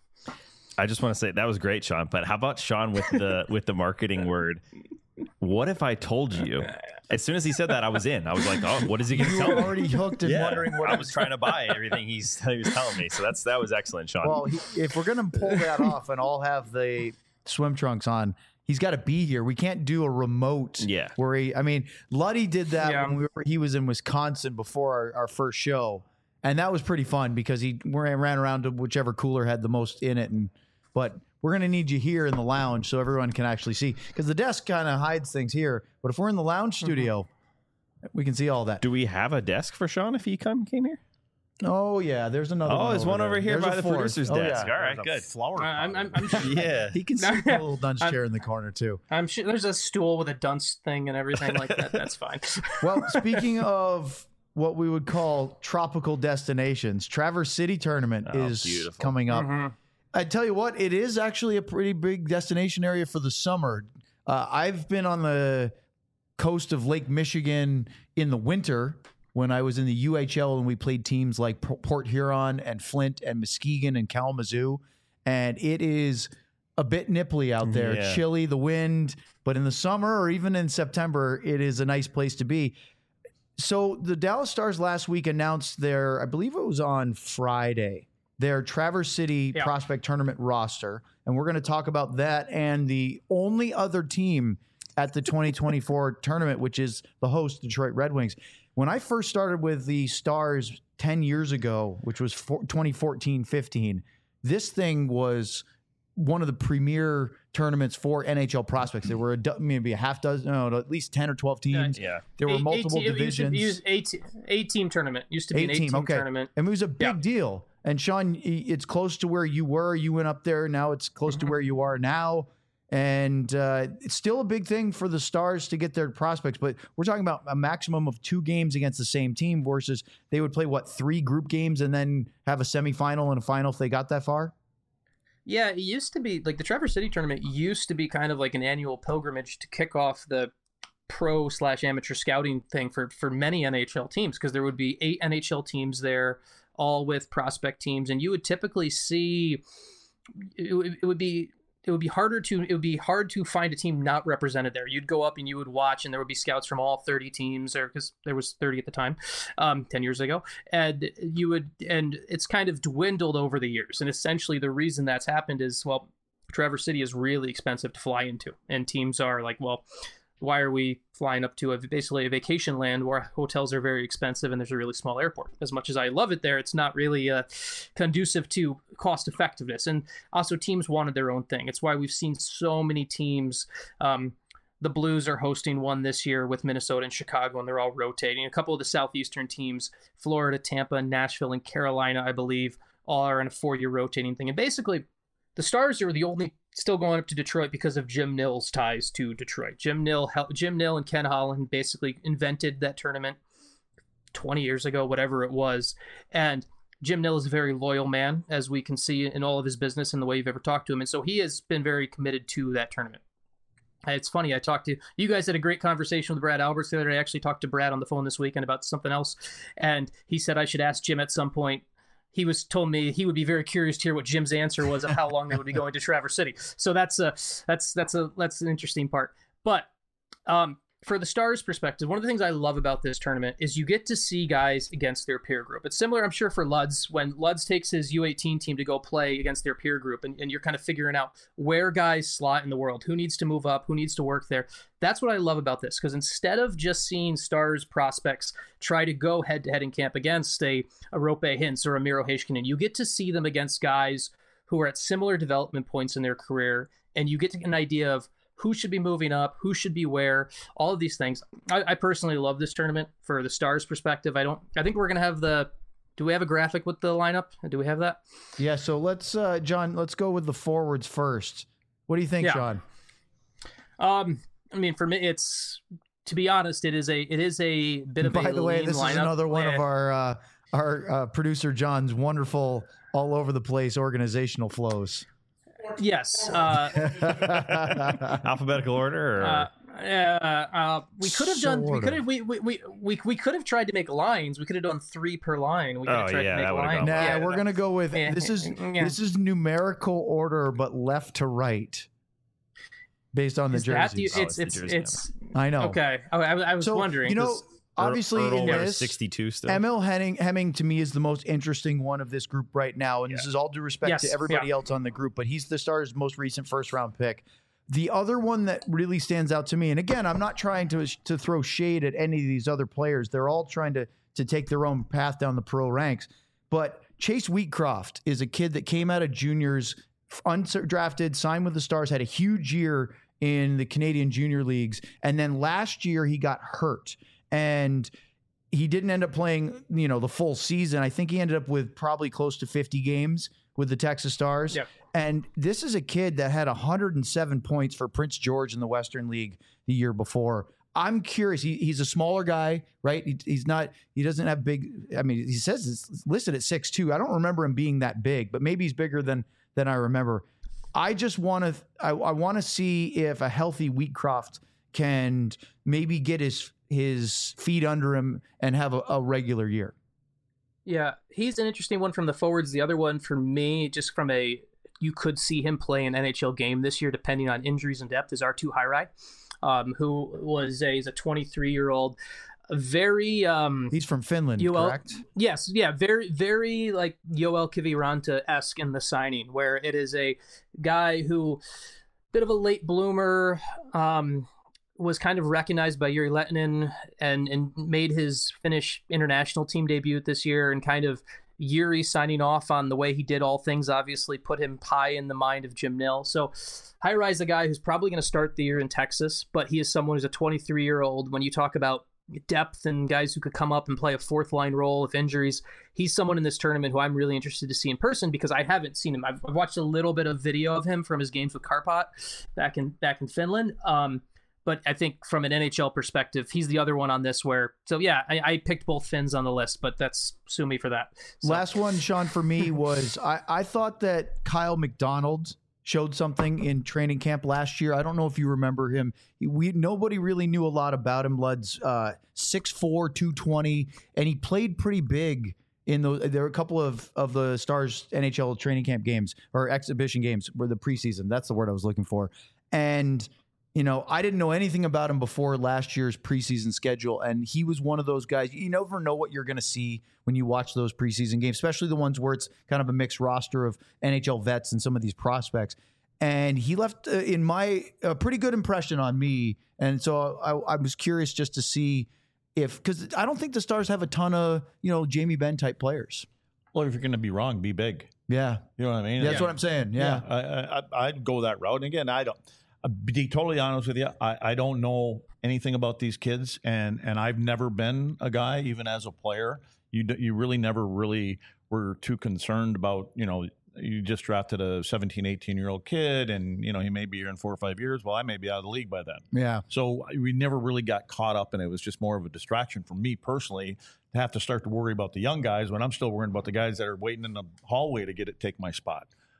I just want to say that was great, Sean. But how about Sean with the with the marketing word? What if I told you? As soon as he said that, I was in. I was like, "Oh, what is he going to You tell were me?" already hooked and wondering what I was trying to buy everything he's he was telling me. So that's that was excellent, Sean. Well, he, if we're gonna pull that off and all have the swim trunks on, he's got to be here. We can't do a remote. Yeah. Where he, I mean, Luddy did that Yeah. when we were, he was in Wisconsin before our, our first show, and that was pretty fun because he ran ran around to whichever cooler had the most in it, and but. We're going to need you here in the lounge so everyone can actually see, because the desk kind of hides things here. But if we're in the lounge studio, we can see all that. Do we have a desk for Sean if he come came here? Oh, yeah. There's another Oh, one. there's one there. over here There's by a the fourth. producer's Oh, desk. yeah. All right, There's a good. Flower Uh, I'm, pot. I'm, I'm, sure, Yeah. He can see the little dunce chair in the corner, too. I'm sure there's a stool with a dunce thing and everything like that. That's fine. Well, speaking of what we would call tropical destinations, Traverse City Tournament Oh, is beautiful. coming up. Mhm. I tell you what, it is actually a pretty big destination area for the summer. Uh, I've been on the coast of Lake Michigan in the winter when I was in the U H L and we played teams like P- Port Huron and Flint and Muskegon and Kalamazoo. And it is a bit nipply out there, Yeah. chilly, the wind. But in the summer or even in September, it is a nice place to be. So the Dallas Stars last week announced their, I believe it was on Friday, their Traverse City Yeah. Prospect Tournament roster. And we're going to talk about that and the only other team at the twenty twenty-four tournament, which is the host, Detroit Red Wings. When I first started with the Stars ten years ago, which was twenty fourteen fifteen, this thing was one of the premier tournaments for N H L prospects. There were a, do- maybe a half dozen, no, at least ten or twelve teams. Yeah. There were Eight- multiple eight, divisions. It used to be, it used eight, eight team tournament. Used to be an eight Eight-team, team okay. tournament. And it was a big Yeah. deal. And Sean, it's close to where you were. You went up there. Now it's close Mm-hmm. to where you are now. And uh, it's still a big thing for the Stars to get their prospects. But we're talking about a maximum of two games against the same team versus they would play, what, three group games and then have a semifinal and a final if they got that far? Yeah, it used to be like the Traverse City tournament used to be kind of like an annual pilgrimage to kick off the pro slash amateur scouting thing for for many N H L teams, because there would be eight N H L teams there, all with prospect teams, and you would typically see it, would- it would be it would be harder to it would be hard to find a team not represented there. You'd go up and you would watch, and there would be scouts from all thirty teams, or because there was thirty at the time, um, ten years ago, and you would and it's kind of dwindled over the years. And essentially, the reason that's happened is, well, Traverse City is really expensive to fly into, and teams are like, well, why are we flying up to a basically a vacation land where hotels are very expensive and there's a really small airport? As much as I love it there, it's not really uh, conducive to cost effectiveness. And also, teams wanted their own thing. It's why we've seen so many teams. Um, the Blues are hosting one this year with Minnesota and Chicago, and they're all rotating. A couple of the Southeastern teams, Florida, Tampa, Nashville, and Carolina, I believe, all are in a four-year rotating thing. And basically, the Stars are the only still going up to Detroit because of Jim Nill's ties to Detroit. Jim Nill, Jim Nill and Ken Holland basically invented that tournament twenty years ago, whatever it was. And Jim Nill is a very loyal man, as we can see in all of his business and the way you've ever talked to him. And so he has been very committed to that tournament. It's funny. I talked to you guys had a great conversation with Brad Alberts the other day. I actually talked to Brad on the phone this weekend about something else, and he said I should ask Jim at some point. He was told me he would be very curious to hear what Jim's answer was of how long they would be going to Traverse City. So that's a that's that's a that's an interesting part. But um, for the Stars' perspective, one of the things I love about this tournament is you get to see guys against their peer group. It's similar, I'm sure, for Luds when Luds takes his U eighteen team to go play against their peer group, and, and you're kind of figuring out where guys slot in the world, who needs to move up, who needs to work there. That's what I love about this, because instead of just seeing Stars prospects try to go head-to-head in camp against a, a Rope Hintz or a Miro Heiskanen, you get to see them against guys who are at similar development points in their career, and you get to get an idea of who should be moving up, who should be where, all of these things. I, I personally love this tournament for the Stars' perspective. I don't. I think we're going to have the. Do we have a graphic with the lineup? Do we have that? Yeah. So let's, uh, John. Let's go with the forwards first. What do you think, yeah. Sean? Um, I mean, for me, it's to be honest, it is a it is a bit of By a the way, lean this lineup. is another one yeah. of our uh, our uh, producer John's wonderful, all over the place organizational flows. Yes. Uh, Alphabetical order, or uh, uh, uh, we could have done. We Sort could of. have. We, we we we we could have tried to make lines. We could have done three per line. We could have Oh, tried yeah, to make that would've lines. gone Nah, Yeah, we're gonna go with Yeah. this is Yeah. this is numerical order, but left to right, based on the Is that the- jerseys. Oh, it's it's it's the jersey it's I know. okay. I, I, I was So wondering. you know, 'cause- obviously in Ertl this, sixty-two still. M L Hemming, Hemming to me is the most interesting one of this group right now, and this is all due respect Yes, to everybody yeah. else on the group, but he's the Stars' most recent first round pick. The other one that really stands out to me, and again, I'm not trying to to throw shade at any of these other players. They're all trying to to take their own path down the pro ranks. But Chase Wheatcroft is a kid that came out of juniors, undrafted, signed with the Stars, had a huge year in the Canadian junior leagues, and then last year he got hurt and he didn't end up playing, you know, the full season. I think he ended up with probably close to fifty games with the Texas Stars. Yep. And this is a kid that had one hundred seven points for Prince George in the Western League the year before. I'm curious. He, he's a smaller guy, right? He, he's not, he doesn't have big, I mean, he says it's listed at six two. I don't remember him being that big, but maybe he's bigger than, than I remember. I just want to, I, I want to see if a healthy Wheatcroft can maybe get his, his feet under him and have a, a regular year. Yeah, he's an interesting one from the forwards. The other one for me, just from a, you could see him play an N H L game this year, depending on injuries and depth, is Arttu Hairi, um, who was a, he's a twenty-three-year-old, very... Um, He's from Finland, U L, correct? Yes, yeah, very, very like Yoel Kiviranta-esque in the signing, where it is a guy who, bit of a late bloomer, um, was kind of recognized by Yuri Lehtinen and and made his Finnish international team debut this year, and kind of Yuri signing off on the way he did all things obviously put him high in the mind of Jim Nill. So Hairi is a guy who's probably going to start the year in Texas, but he is someone who's a twenty-three-year-old. When you talk about depth and guys who could come up and play a fourth line role if injuries, he's someone in this tournament who I'm really interested to see in person, because I haven't seen him. I've, I've watched a little bit of video of him from his games with Karpat back in back in Finland. Um, But I think from an N H L perspective, he's the other one on this where, so yeah, I, I picked both Finns on the list, but that's, sue me for that. So, Last one, Sean, for me was I, I thought that Kyle McDonald showed something in training camp last year. I don't know if you remember him. He, we Nobody really knew a lot about him. Lud's uh, six four, two twenty, and he played pretty big in the, there were a couple of, of the Stars N H L training camp games or exhibition games were the preseason. That's the word I was looking for. And you know, I didn't know anything about him before last year's preseason schedule, and he was one of those guys. You never know what you're going to see when you watch those preseason games, especially the ones where it's kind of a mixed roster of N H L vets and some of these prospects. And he left, uh, in my, a pretty good impression on me. And so I, I was curious just to see if, because I don't think the Stars have a ton of, you know, Jamie Benn type players. Well, if you're going to be wrong, be big. Yeah. You know what I mean? That's what I'm saying. Yeah. I, I, I'd go that route. And again, I don't. I'll be totally honest with you. I, I don't know anything about these kids, and and I've never been a guy, even as a player. You d- you really never really were too concerned about, you know, you just drafted a seventeen, eighteen-year-old kid, and, you know, he may be here in four or five years. Well, I may be out of the league by then. Yeah. So we never really got caught up, and it was just more of a distraction for me personally to have to start to worry about the young guys when I'm still worrying about the guys that are waiting in the hallway to get it, take my spot.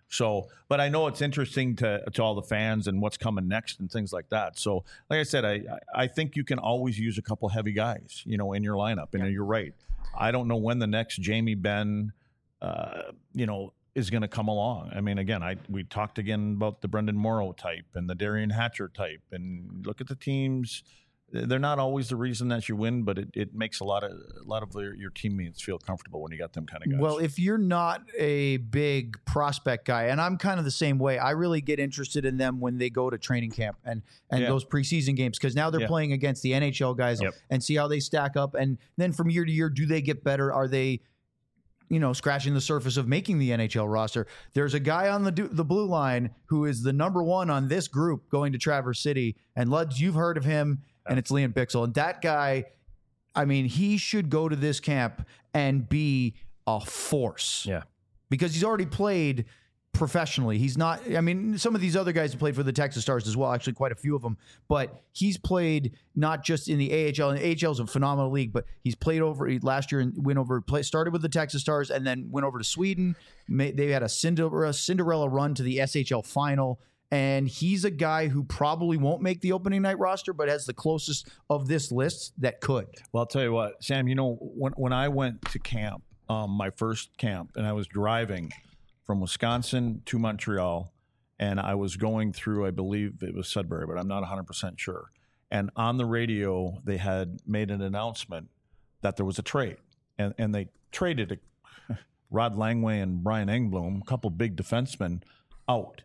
So, but I know it's interesting to to all the fans and what's coming next and things like that. So, like I said, I I think you can always use a couple heavy guys, you know, in your lineup. And yeah. you're right. I don't know when the next Jamie Benn, uh, you know, is going to come along. I mean, again, I we talked again about the Brendan Morrow type and the Darian Hatcher type, and look at the teams. They're not always the reason that you win, but it, it makes a lot of a lot of your, your teammates feel comfortable when you got them kind of guys. Well, if you're not a big prospect guy, and I'm kind of the same way, I really get interested in them when they go to training camp and, and yeah. those preseason games, because now they're yeah. playing against the N H L guys yep. and see how they stack up. And then from year to year, do they get better? Are they, you know, scratching the surface of making the N H L roster? There's a guy on the the blue line who is the number one on this group going to Traverse City, and Luds, you've heard of him. And it's Liam Bichsel. And that guy, I mean, he should go to this camp and be a force. Yeah. Because he's already played professionally. He's not, I mean, some of these other guys have played for the Texas Stars as well, actually quite a few of them. But he's played not just in the A H L, and the A H L is a phenomenal league, but he's played over last year and went over, play, started with the Texas Stars and then went over to Sweden. They had a Cinderella, Cinderella run to the S H L final. And he's a guy who probably won't make the opening night roster, but has the closest of this list that could. Well, I'll tell you what, Sam, you know, when when I went to camp, um, my first camp, and I was driving from Wisconsin to Montreal, and I was going through, I believe it was Sudbury, but I'm not one hundred percent sure. And on the radio, they had made an announcement that there was a trade. And, and they traded a, Rod Langway and Brian Engblom, a couple big defensemen, out.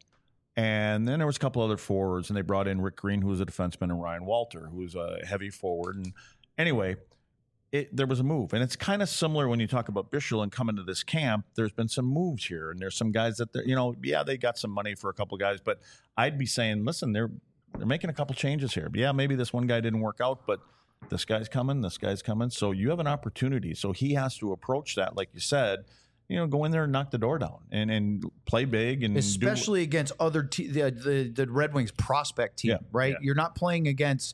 And then there was a couple other forwards, and they brought in Rick Green, who was a defenseman, and Ryan Walter, who was a heavy forward. And anyway, it, there was a move. And it's kind of similar when you talk about Bichsel and coming to this camp. There's been some moves here, and there's some guys that, you know, yeah, they got some money for a couple guys. But I'd be saying, listen, they're they're making a couple changes here. Yeah, maybe this one guy didn't work out, but this guy's coming, this guy's coming. So you have an opportunity. So he has to approach that, like you said, you know, go in there and knock the door down and, and play big. And especially do, against other te- the, the the Red Wings prospect team, yeah, right? Yeah. You're not playing against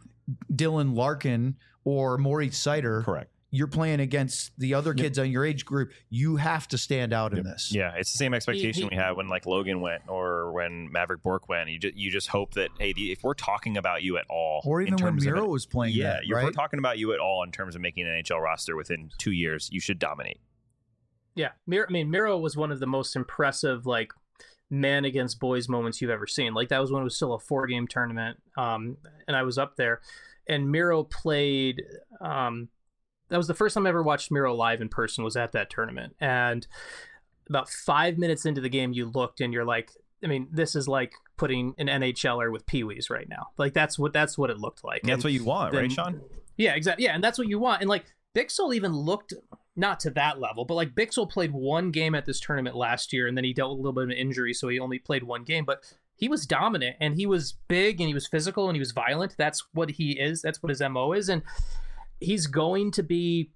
Dylan Larkin or Maurice Sider. Correct. You're playing against the other kids yep. on your age group. You have to stand out yep. in this. Yeah, it's the same expectation he, he, we had when like Logan went or when Maverick Bourque went. You just you just hope that, hey, if we're talking about you at all, or even when Miro was playing, yeah, that, if right? we're talking about you at all in terms of making an N H L roster within two years, you should dominate. Yeah, Miro, I mean, Miro was one of the most impressive, like, man against boys moments you've ever seen. Like, that was when it was still a four-game tournament, um, and I was up there. And Miro played um, – that was the first time I ever watched Miro live in person, was at that tournament. And about five minutes into the game, you looked, and you're like, I mean, this is like putting an N H L er with Pee-wees right now. Like, that's what that's what it looked like. And that's and what you want, then, right, Sean? Yeah, exactly. Yeah, and that's what you want. And, like, Bichsel even looked – not to that level, but like Bichsel played one game at this tournament last year, and then he dealt with a little bit of an injury, so he only played one game, but he was dominant, and he was big, and he was physical, and he was violent. That's what he is. That's what his M O is, and he's going to be...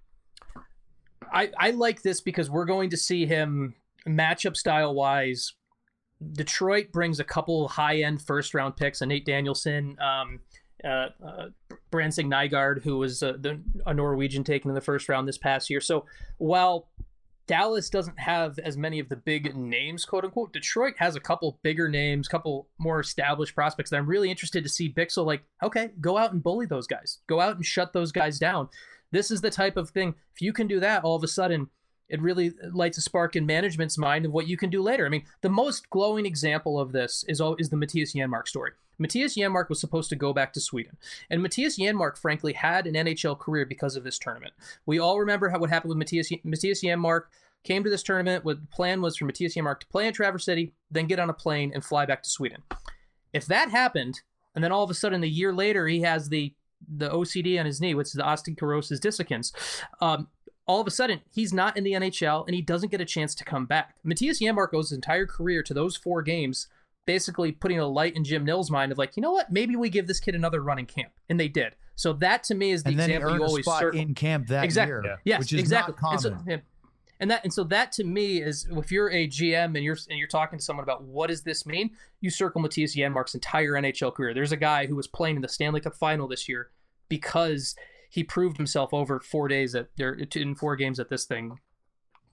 I, I like this because we're going to see him matchup style-wise. Detroit brings a couple high-end first-round picks, a Nate Danielson, um, Uh, uh, Branson Nygaard, who was uh, the, a Norwegian taken in the first round this past year. So while Dallas doesn't have as many of the big names, quote unquote, Detroit has a couple bigger names, couple more established prospects that I'm really interested to see Bichsel like, okay, go out and bully those guys. Go out and shut those guys down. This is the type of thing. If you can do that, all of a sudden, it really lights a spark in management's mind of what you can do later. I mean, the most glowing example of this is, is the Matthias Janmark story. Matthias Janmark was supposed to go back to Sweden. And Matthias Janmark, frankly, had an N H L career because of this tournament. We all remember how what happened with Matthias, Matthias Janmark. Came to this tournament. What the plan was for Matthias Janmark to play in Traverse City, then get on a plane and fly back to Sweden. If that happened, and then all of a sudden a year later he has the, the O C D on his knee, which is the osteoporosis dissecans, um, all of a sudden, he's not in the N H L, and he doesn't get a chance to come back. Matthias Janmark owes his entire career to those four games, basically putting a light in Jim Nill's mind of like, you know what, maybe we give this kid another run in camp. And they did. So that, to me, is the and then example he earned you always a spot circle. in camp that exactly. year, Yeah. Yes, which is exactly. not common. And so, yeah. And that, and so that to me is, if you're a G M and you're and you're talking to someone about what does this mean, you circle Matthias Janmark's entire N H L career. There's a guy who was playing in the Stanley Cup final this year because he proved himself over four days at there in four games at this thing.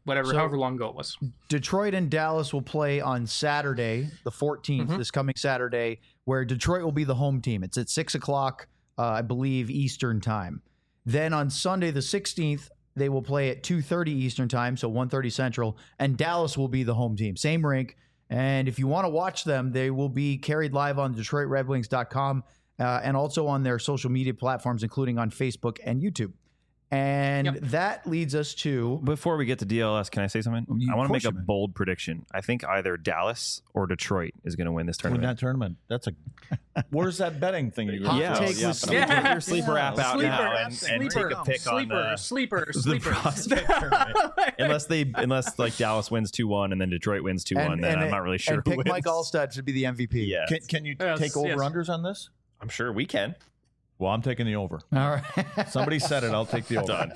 whatever, So- however long ago it was. Detroit and Dallas will play on Saturday, the fourteenth, Mhm. this coming Saturday, where Detroit will be the home team. It's at six o'clock, uh, I believe, Eastern time. Then on Sunday, the sixteenth, they will play at two thirty Eastern time, so one thirty Central, and Dallas will be the home team. Same rink. And if you want to watch them, they will be carried live on Detroit Red Wings dot com uh, and also on their social media platforms, including on Facebook and YouTube. And Yep. that leads us to Before we get to D L S, can I say something? You- I want of to make course a you may. bold prediction. I think either Dallas or Detroit is going to win this Win tournament. that tournament. That's a. Where's that betting thing you Hot yeah, take yeah. with Sleeper, Yeah. your sleeper app out Sleeper, now and, and sleeper, take a pick sleeper, on uh, sleeper, the sleeper. prospect tournament. unless they, unless like Dallas wins two one and then Detroit wins two one, then I'm not really sure. And who pick wins. Mike Allstott to be the M V P. Yeah, Can, can you Yes, take yes. over unders on this? I'm sure we can. Well, I'm taking the over. All right. Somebody said it. I'll take the over. Done.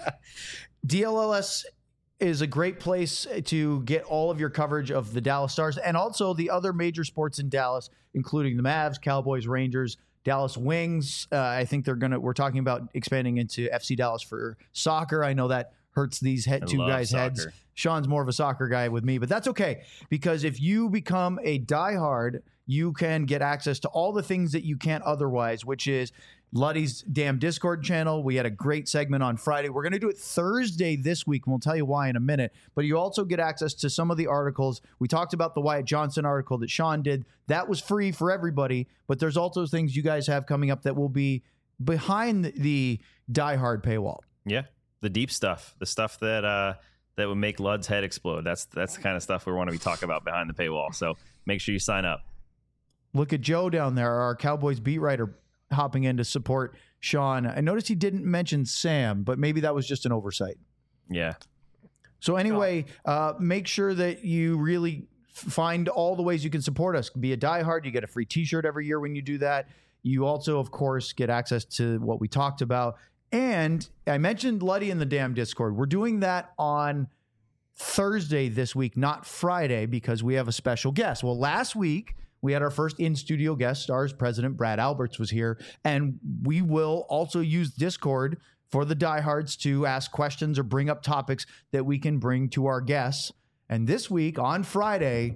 D L L S is a great place to get all of your coverage of the Dallas Stars and also the other major sports in Dallas, including the Mavs, Cowboys, Rangers, Dallas Wings. Uh, I think they're gonna. We're talking about expanding into F C Dallas for soccer. I know that hurts these head, I two love guys' heads. soccer. Sean's more of a soccer guy with me, but that's okay because if you become a diehard, you can get access to all the things that you can't otherwise, which is Luddy's damn Discord channel. We had a great segment on Friday. We're going to do it Thursday this week, and we'll tell you why in a minute. But you also get access to some of the articles. We talked about the Wyatt Johnson article that Sean did. That was free for everybody, but there's also things you guys have coming up that will be behind the diehard paywall. Yeah, the deep stuff, the stuff that uh, that would make Lud's head explode. That's that's the kind of stuff we want to be talking about behind the paywall. So make sure you sign up. Look at Joe down there, our Cowboys beat writer, hopping in to support Sean. I noticed he didn't mention Sam, but maybe that was just an oversight. Yeah. So anyway, uh, make sure that you really f- find all the ways you can support us. Be a diehard. You get a free T-shirt every year when you do that. You also, of course, get access to what we talked about. And I mentioned Luddy in the damn Discord. We're doing that on Thursday this week, not Friday, because we have a special guest. Well, last week we had our first in-studio guest stars. President Brad Alberts was here, and we will also use Discord for the diehards to ask questions or bring up topics that we can bring to our guests. And this week, on Friday,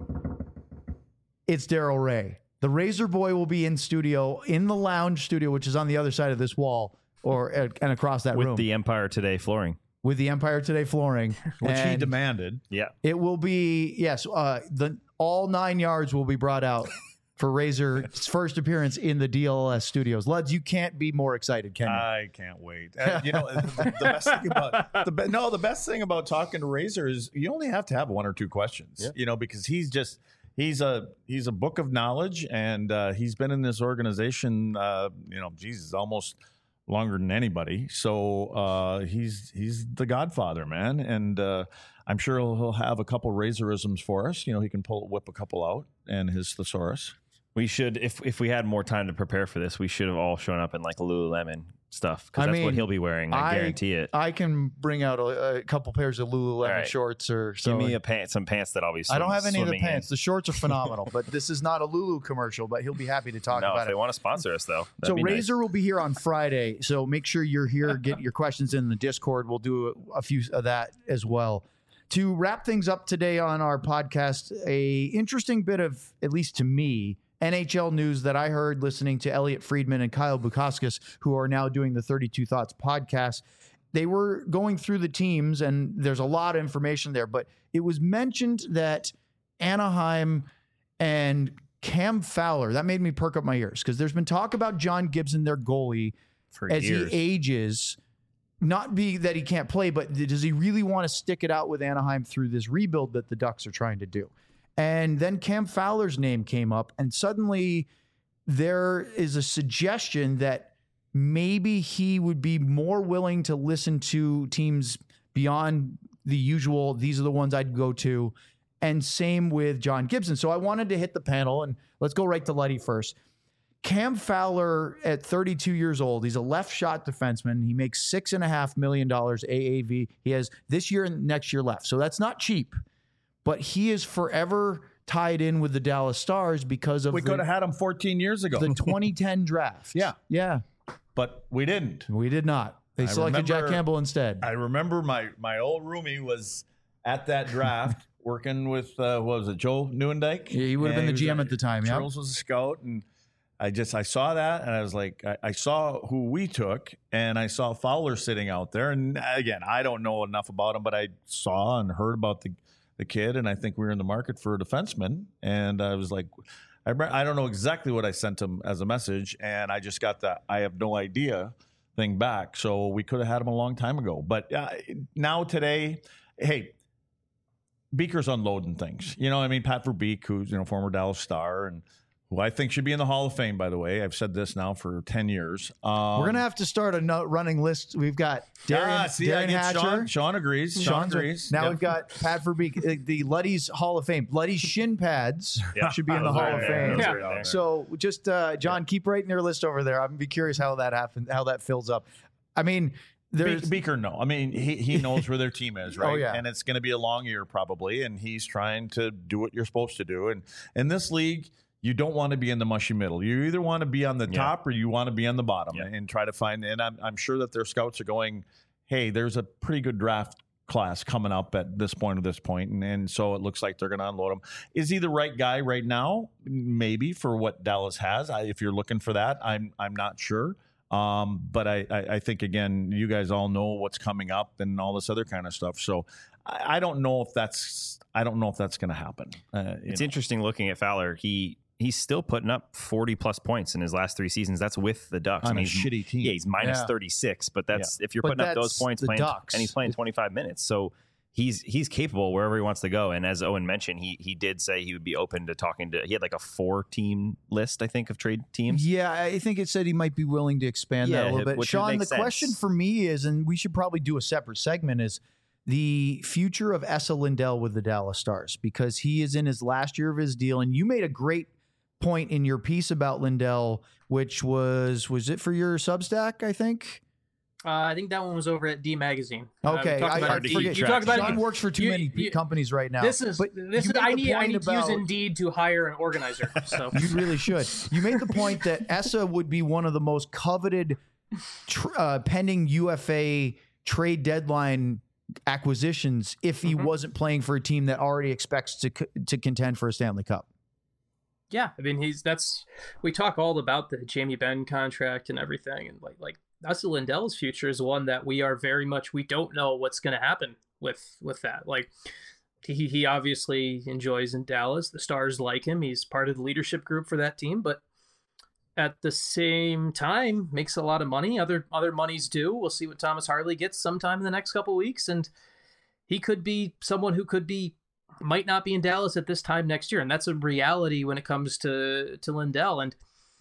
it's Daryl Ray. The Razor Boy will be in studio, in the lounge studio, which is on the other side of this wall, or uh, and across that With room, the Empire Today flooring. with the Empire Today flooring, Which he And demanded. Yeah. it will be yes, uh, the all nine yards will be brought out for Razor's first appearance in the D L S studios. Luds, you can't be more excited, can you? I can't wait. Uh, you know, the, the best thing about the be- no, the best thing about talking to Razor is you only have to have one or two questions. Yeah. You know, because he's just he's a he's a book of knowledge, and uh, he's been in this organization. Uh, you know, Jesus, almost longer than anybody. So uh, he's he's the Godfather, man, and uh, I'm sure he'll, he'll have a couple Razorisms for us. You know, he can pull whip a couple out, and his thesaurus. We should, if if we had more time to prepare for this, we should have all shown up in like Lululemon stuff because I that's mean, what he'll be wearing. I, I- guarantee it. I can bring out a, a couple pairs of Lululemon All right. shorts or so. Give me a pant, some pants that I'll be. Swim, I don't have any of the swimming in. pants. The shorts are phenomenal, but this is not a Lulu commercial. But he'll be happy to talk No, about if it. they want to sponsor us though, that'd So be nice. Razor will be here on Friday. So make sure you're here. Get your questions in the Discord. We'll do a, a few of that as well. To wrap things up today on our podcast, a interesting bit of, at least to me, N H L news that I heard listening to Elliot Friedman and Kyle Bukauskas, who are now doing the thirty-two Thoughts podcast. They were going through the teams, and there's a lot of information there, but it was mentioned that Anaheim and Cam Fowler, that made me perk up my ears because there's been talk about John Gibson, their goalie, for as years. he ages. Not be that he can't play, but does he really want to stick it out with Anaheim through this rebuild that the Ducks are trying to do? And then Cam Fowler's name came up, and suddenly there is a suggestion that maybe he would be more willing to listen to teams beyond the usual, these are the ones I'd go to. And same with John Gibson. So I wanted to hit the panel, and let's go right to Luddy first. Cam Fowler at thirty-two years old, he's a left shot defenseman. He makes six and a half million dollars A A V. He has this year and next year left. So that's not cheap, but he is forever tied in with the Dallas Stars because of We the, could have had him fourteen years ago, the twenty ten draft. Yeah. Yeah. but we didn't. We did not. They I selected Jack remember- Campbell instead. I remember my my old roomie was at that draft working with, uh, what was it, Joe Newendike? Yeah, he would have been the G M at the time, yeah. Charles was a scout, and I just, I saw that, and I was like, I, I saw who we took, and I saw Fowler sitting out there. And again, I don't know enough about him, but I saw and heard about the, the kid, and I think we were in the market for a defenseman. And I was like, I, I don't know exactly what I sent him as a message, and I just got that I have no idea thing back. So we could have had him a long time ago. But uh, now today, hey, Beaker's unloading things. You know, I mean, Pat Verbeek, who's, you know, former Dallas Star, and who I think should be in the Hall of Fame, by the way. I've said this now for ten years. Um, We're going to have to start a no- running list. We've got Darian, ah, see, Darian I get Hatcher. Sean, Sean agrees. Sean Sean's agrees. Now Yep. we've got Pat Verbeek, uh, the Luddy's Hall of Fame. Luddy's shin pads Yeah. should be in the Those Hall are of there. Fame. Those Yeah. are there. So just, uh, John, keep writing your list over there. I'm going to be curious how that happens, how that fills up. I mean, there's Be- Beaker, no. I mean, he, he knows where their team is, right? Oh, yeah. And it's going to be a long year probably, and he's trying to do what you're supposed to do. And in this league, you don't want to be in the mushy middle. You either want to be on the Yeah. top or you want to be on the bottom, Yeah. and try to find. And I'm, I'm sure that their scouts are going, hey, there's a pretty good draft class coming up at this point or this point, and, and so it looks like they're going to unload him. Is he the right guy right now? Maybe for what Dallas has. I, if you're looking for that, I'm I'm not sure. Um, but I, I, I think, again, you guys all know what's coming up and all this other kind of stuff. So I, I don't know if that's I don't know if that's going to happen. Uh, It's know. interesting looking at Fowler. He he's still putting up forty plus points in his last three seasons. That's with the Ducks. On I mean, a he's- shitty team. Yeah, he's minus Yeah. thirty-six, but that's if you're But putting up those that's points the playing, Ducks. and he's playing twenty-five minutes. So he's he's capable wherever he wants to go. And as Owen mentioned, he he did say he would be open to talking to. He had like a four team list, I think, of trade teams. Yeah, I think it said he might be willing to expand Yeah, that a little bit. which would Sean, make the sense. question for me is, and we should probably do a separate segment, is the future of Esa Lindell with the Dallas Stars, because he is in his last year of his deal. And you made a great point in your piece about Lindell, which was, was it for your Substack, I think? Uh, I think that one was over at D Magazine. Uh, we Okay, talked I, about I it. keep forget. You talked about Sean it. works for too you- many you- companies right now. This is But this you is made I the need I point need to about- use Indeed to hire an organizer. So You really should. You made the point that Esa would be one of the most coveted tr- uh, pending U F A trade deadline acquisitions if he Mhm. wasn't playing for a team that already expects to c- to contend for a Stanley Cup. yeah, I mean he's that's we talk all about the Jamie Benn contract and everything, and like like Esa Lindell's future is one that we are very much we don't know what's going to happen with with that. Like he he obviously enjoys in Dallas. The Stars like him. He's part of the leadership group for that team, but at the same time makes a lot of money. Other other monies do. We'll see what Thomas Harley gets sometime in the next couple of weeks, and he could be someone who could be might not be in Dallas at this time next year, and that's a reality when it comes to to Lindell. And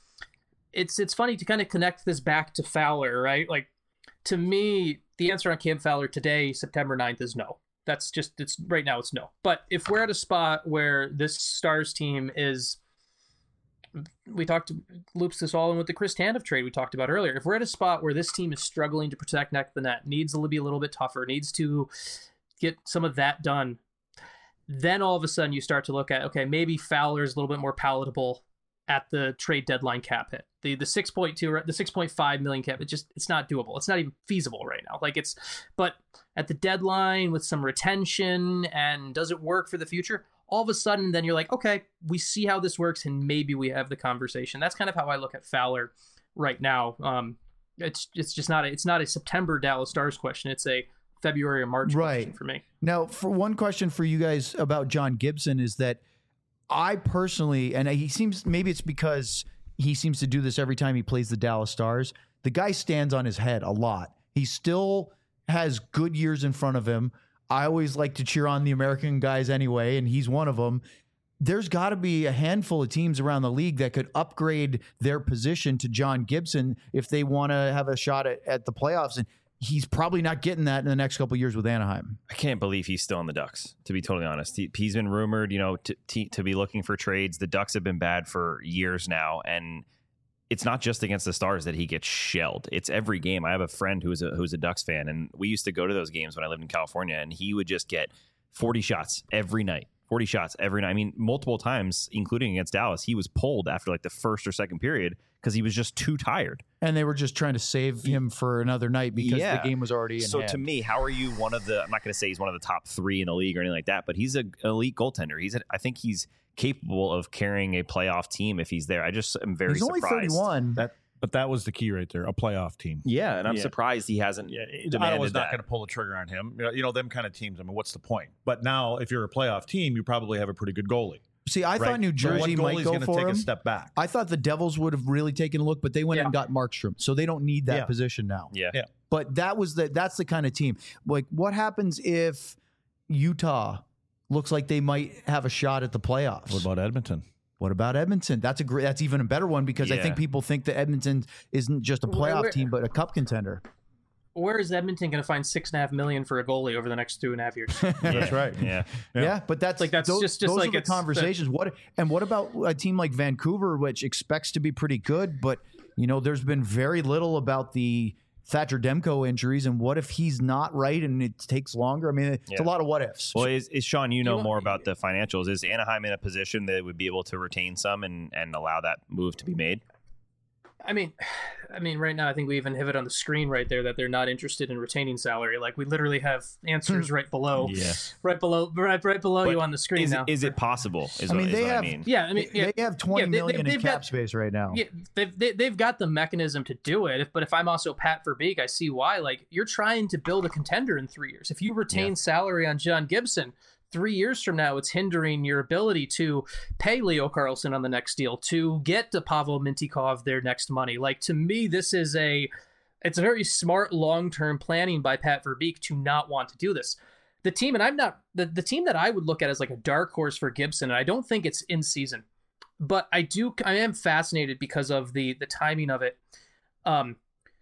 it's it's funny to kind of connect this back to Fowler, right? Like to me, the answer on Cam Fowler today, September ninth, is no. That's just it's right now it's no. But if we're at a spot where this Stars team is, we talked loops this all in with the Chris Tanev trade we talked about earlier. If we're at a spot where this team is struggling to protect neck the net, needs to be a little bit tougher, needs to get some of that done, then all of a sudden you start to look at, okay, maybe Fowler's a little bit more palatable at the trade deadline cap hit. The the six point two, the six point five million cap, it just it's not doable. It's not even feasible right now. Like it's, but at the deadline with some retention and does it work for the future? All of a sudden, then you're like, okay, we see how this works, and maybe we have the conversation. That's kind of how I look at Fowler right now. Um, it's it's just not a, it's not a September Dallas Stars question. It's a February or March Right. question for me. Now, for one question for you guys about John Gibson is that I personally, and he seems, maybe it's because he seems to do this every time he plays the Dallas Stars, the guy stands on his head a lot. He still has good years in front of him. I always like to cheer on the American guys anyway, and he's one of them. There's got to be a handful of teams around the league that could upgrade their position to John Gibson if they want to have a shot at, at the playoffs. And he's probably not getting that in the next couple of years with Anaheim. I can't believe he's still in the Ducks, to be totally honest. He, he's been rumored, you know, to, to to be looking for trades. The Ducks have been bad for years now, and it's not just against the Stars that he gets shelled. It's every game. I have a friend who's a who's a Ducks fan, and we used to go to those games when I lived in California, and he would just get forty shots every night. forty shots every night. I mean, multiple times, including against Dallas, he was pulled after like the first or second period because he was just too tired. And they were just trying to save him for another night because Yeah. the game was already in So hand. to me, how are you one of the? I'm not going to say he's one of the top three in the league or anything like that, but he's an elite goaltender. He's, a, I think he's capable of carrying a playoff team if he's there. I just am very He's only surprised. thirty-one. That, but that was the key right there, a playoff team. Yeah, and I'm Yeah. surprised he hasn't. Yeah, demanded Ottawa's not that. going to pull the trigger on him. You know, you know, them kind of teams. I mean, what's the point? But now, if you're a playoff team, you probably have a pretty good goalie. See, I right? thought New So Jersey what might goalie's go gonna for take him. a step back. I thought the Devils would have really taken a look, but they went Yeah. and got Markstrom, so they don't need that Yeah. position now. Yeah. Yeah. But that was the that's the kind of team. Like, what happens if Utah looks like they might have a shot at the playoffs? What about Edmonton? What about Edmonton? That's a great. That's even a better one because I Yeah. think people think that Edmonton isn't just a Where- playoff where- team, but a cup contender. Where is Edmonton going to find six and a half million for a goalie over the next two and a half years? That's right. Yeah. Yeah, but that's Like, that's those, just- just those like are the it's the- conversations. What and what about a team like Vancouver, which expects to be pretty good, but you know, there's been very little about the Thatcher Demko injuries, and what if he's not right and it takes longer? I mean, it's Yeah. a lot of what ifs. Well, is, is Sean, you know want- more about the financials. Is Anaheim in a position that would be able to retain some and, and allow that move to be made? I mean, I mean, right now I think we even have it on the screen right there that they're not interested in retaining salary. Like we literally have answers right below, Yeah. right below, right, right below But you on the screen Is, now. is it possible? Is I what, mean, is they what have- I mean. Yeah, I mean, yeah, they have twenty yeah, they- million they- in they've cap got- space right now. Yeah, they've they, they've got the mechanism to do it. If, but if I'm also Pat Verbeek, I see why. Like you're trying to build a contender in three years. If you retain Yeah. salary on John Gibson, three years from now, it's hindering your ability to pay Leo Carlson on the next deal, to get to Pavel Mintyukov their next money. Like to me, this is a it's a very smart long term planning by Pat Verbeek to not want to do this. The team, and I'm not the, the team that I would look at as like a dark horse for Gibson, and I don't think it's in season. But I do, I am fascinated because of the the timing of it. Um,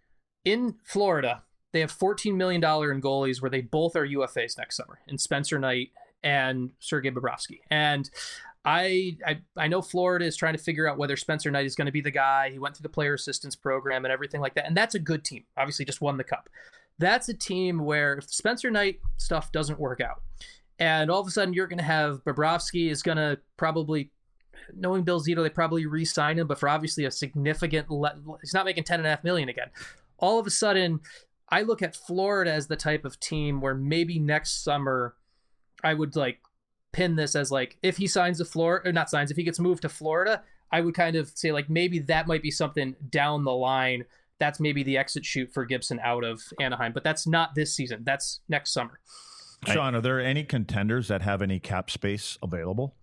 in Florida, they have fourteen million dollars in goalies where they both are U F As next summer, in Spencer Knight and Sergei Bobrovsky. And I, I I know Florida is trying to figure out whether Spencer Knight is going to be the guy. He went through the player assistance program and everything like that. And that's a good team. Obviously, just won the cup. That's a team where if Spencer Knight stuff doesn't work out, and all of a sudden you're going to have Bobrovsky is going to probably, knowing Bill Zito, they probably re-sign him, but for obviously a significant, le- he's not making ten and a half million again. All of a sudden, I look at Florida as the type of team where maybe next summer I would like pin this as like, if he signs to Florida, or not signs, if he gets moved to Florida, I would kind of say like, maybe that might be something down the line. That's maybe the exit shoot for Gibson out of Anaheim, but that's not this season. That's next summer. Sean, are there any contenders that have any cap space available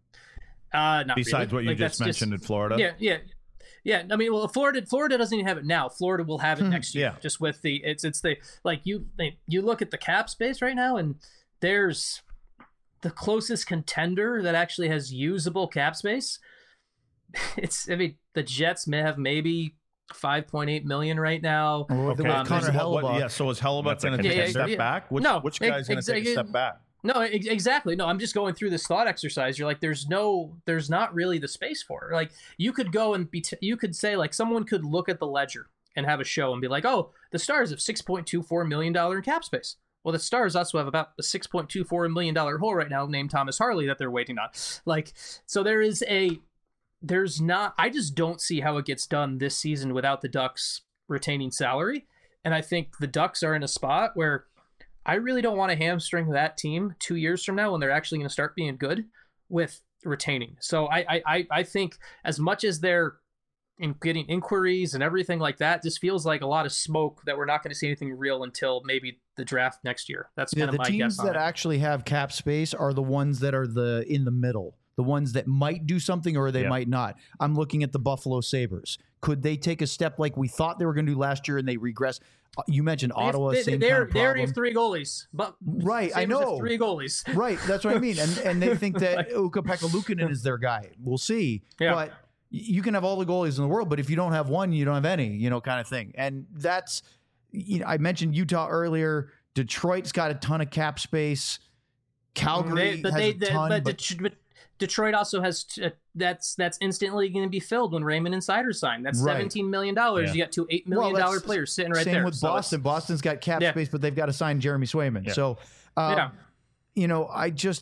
Uh, not besides really. what you Like, just that's mentioned in Florida? Yeah, yeah, yeah. I mean, well, Florida, Florida doesn't even have it now. Florida will have it next year. Yeah. Just with the, it's, it's the like you, you look at the cap space right now, and there's the closest contender that actually has usable cap space. It's, I mean, the Jets may have maybe five point eight million right now. Or Okay. with Um, Connor What- what- Hellebuck. yeah. So is Hellebuck That's a going to take contender. a step Yeah, yeah, back? Which, No, which guy's going to take a ex- step back? No, ex- exactly. No, I'm just going through this thought exercise. You're like, there's no, there's not really the space for it. Like, you could go and be, t- you could say, like, someone could look at the ledger and have a show and be like, oh, the Stars have six point two four million dollars in cap space. Well, the Stars also have about a six point two four million dollars hole right now named Thomas Harley that they're waiting on. Like, so there is a, there's not, I just don't see how it gets done this season without the Ducks retaining salary. And I think the Ducks are in a spot where I really don't want to hamstring that team two years from now when they're actually going to start being good with retaining. So I, I, I think as much as they're in getting inquiries and everything like that, this feels like a lot of smoke that we're not going to see anything real until maybe the draft next year. That's Yeah, kind of the my teams guess on that it. actually have cap space are the ones that are the in the middle, the ones that might do something or they Yeah. might not. I'm looking at the Buffalo Sabres. Could they take a step like we thought they were going to do last year and they regress? Uh, You mentioned They have- Ottawa, they, same they, kind of they already problem. have three goalies, but Right, I Sabres have know. three goalies. Right, that's what I mean. And and they think that Ukko-Pekka Luukkonen is their guy. We'll see. Yeah. But you can have all the goalies in the world, but if you don't have one, you don't have any, you know, kind of thing. And that's, you know, I mentioned Utah earlier. Detroit's got a ton of cap space. Calgary They- but has they, a they- ton, but, but Det- but Detroit also has t- uh, that's that's instantly going to be filled when Raymond Insider signed. That's Right. seventeen million dollars. Yeah. You got two eight Well, million dollar that's players sitting right same there. with So it's- Boston. Boston's got cap Yeah. space, but they've got to sign Jeremy Swayman. Yeah. So, um, Yeah. you know, I just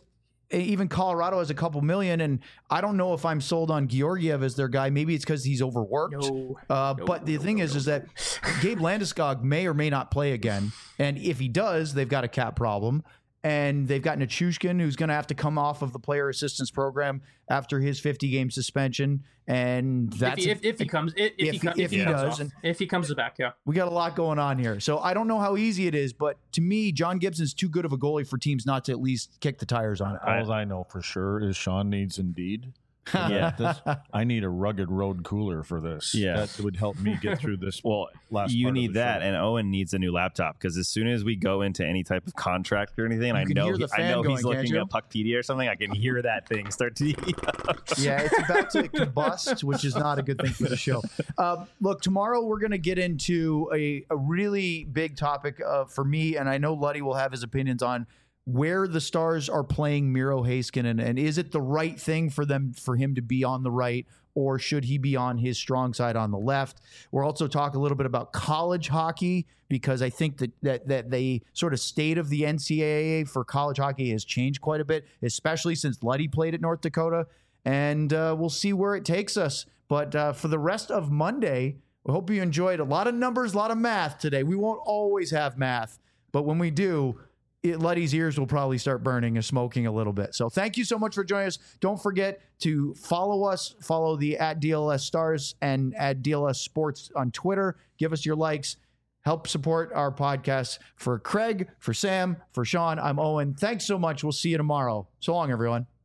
even Colorado has a couple million, and I don't know if I'm sold on Georgiev as their guy. Maybe it's because he's overworked. No, uh, no, but the no, thing no, is, no, is no. that Gabe Landeskog may or may not play again, and if he does, they've got a cap problem. And they've got Nichushkin, who's going to have to come off of the player assistance program after his fifty game suspension. And that's if he, if, if he comes, if, if, if he, he- com- if if he, he comes does, off, and- if he comes back, yeah. we got a lot going on here. So I don't know how easy it is, but to me, John Gibson's too good of a goalie for teams not to at least kick the tires on it. All I know for sure is Sean needs Indeed. Yeah. This, I need a rugged road cooler for this. Yeah. That would help me get through this. Well, last you part of need the that, show. and Owen needs a new laptop because as soon as we go into any type of contract or anything, and I can know hear the he- I fan know going, he's can't looking you? at Puckpedia or something, I can hear that thing start to. Yeah, it's about to combust, which is not a good thing for the show. Uh, look, tomorrow we're going to get into a, a really big topic uh, for me, and I know Luddy will have his opinions on where the Stars are playing Miro Heiskanen, and is it the right thing for them for him to be on the right, or should he be on his strong side on the left? We'll also talk a little bit about college hockey, because I think that that that the sort of state of the N C double A for college hockey has changed quite a bit, especially since Luddy played at North Dakota. And uh, we'll see where it takes us. But uh, for the rest of Monday, we hope you enjoyed a lot of numbers, a lot of math today. We won't always have math, but when we do, it, Luddy's ears will probably start burning and smoking a little bit. So thank you so much for joining us. Don't forget to follow us, follow the at D L S Stars and at D L S Sports on Twitter. Give us your likes. Help support our podcast. For Craig, for Sam, for Sean, I'm Owen. Thanks so much. We'll see you tomorrow. So long, everyone.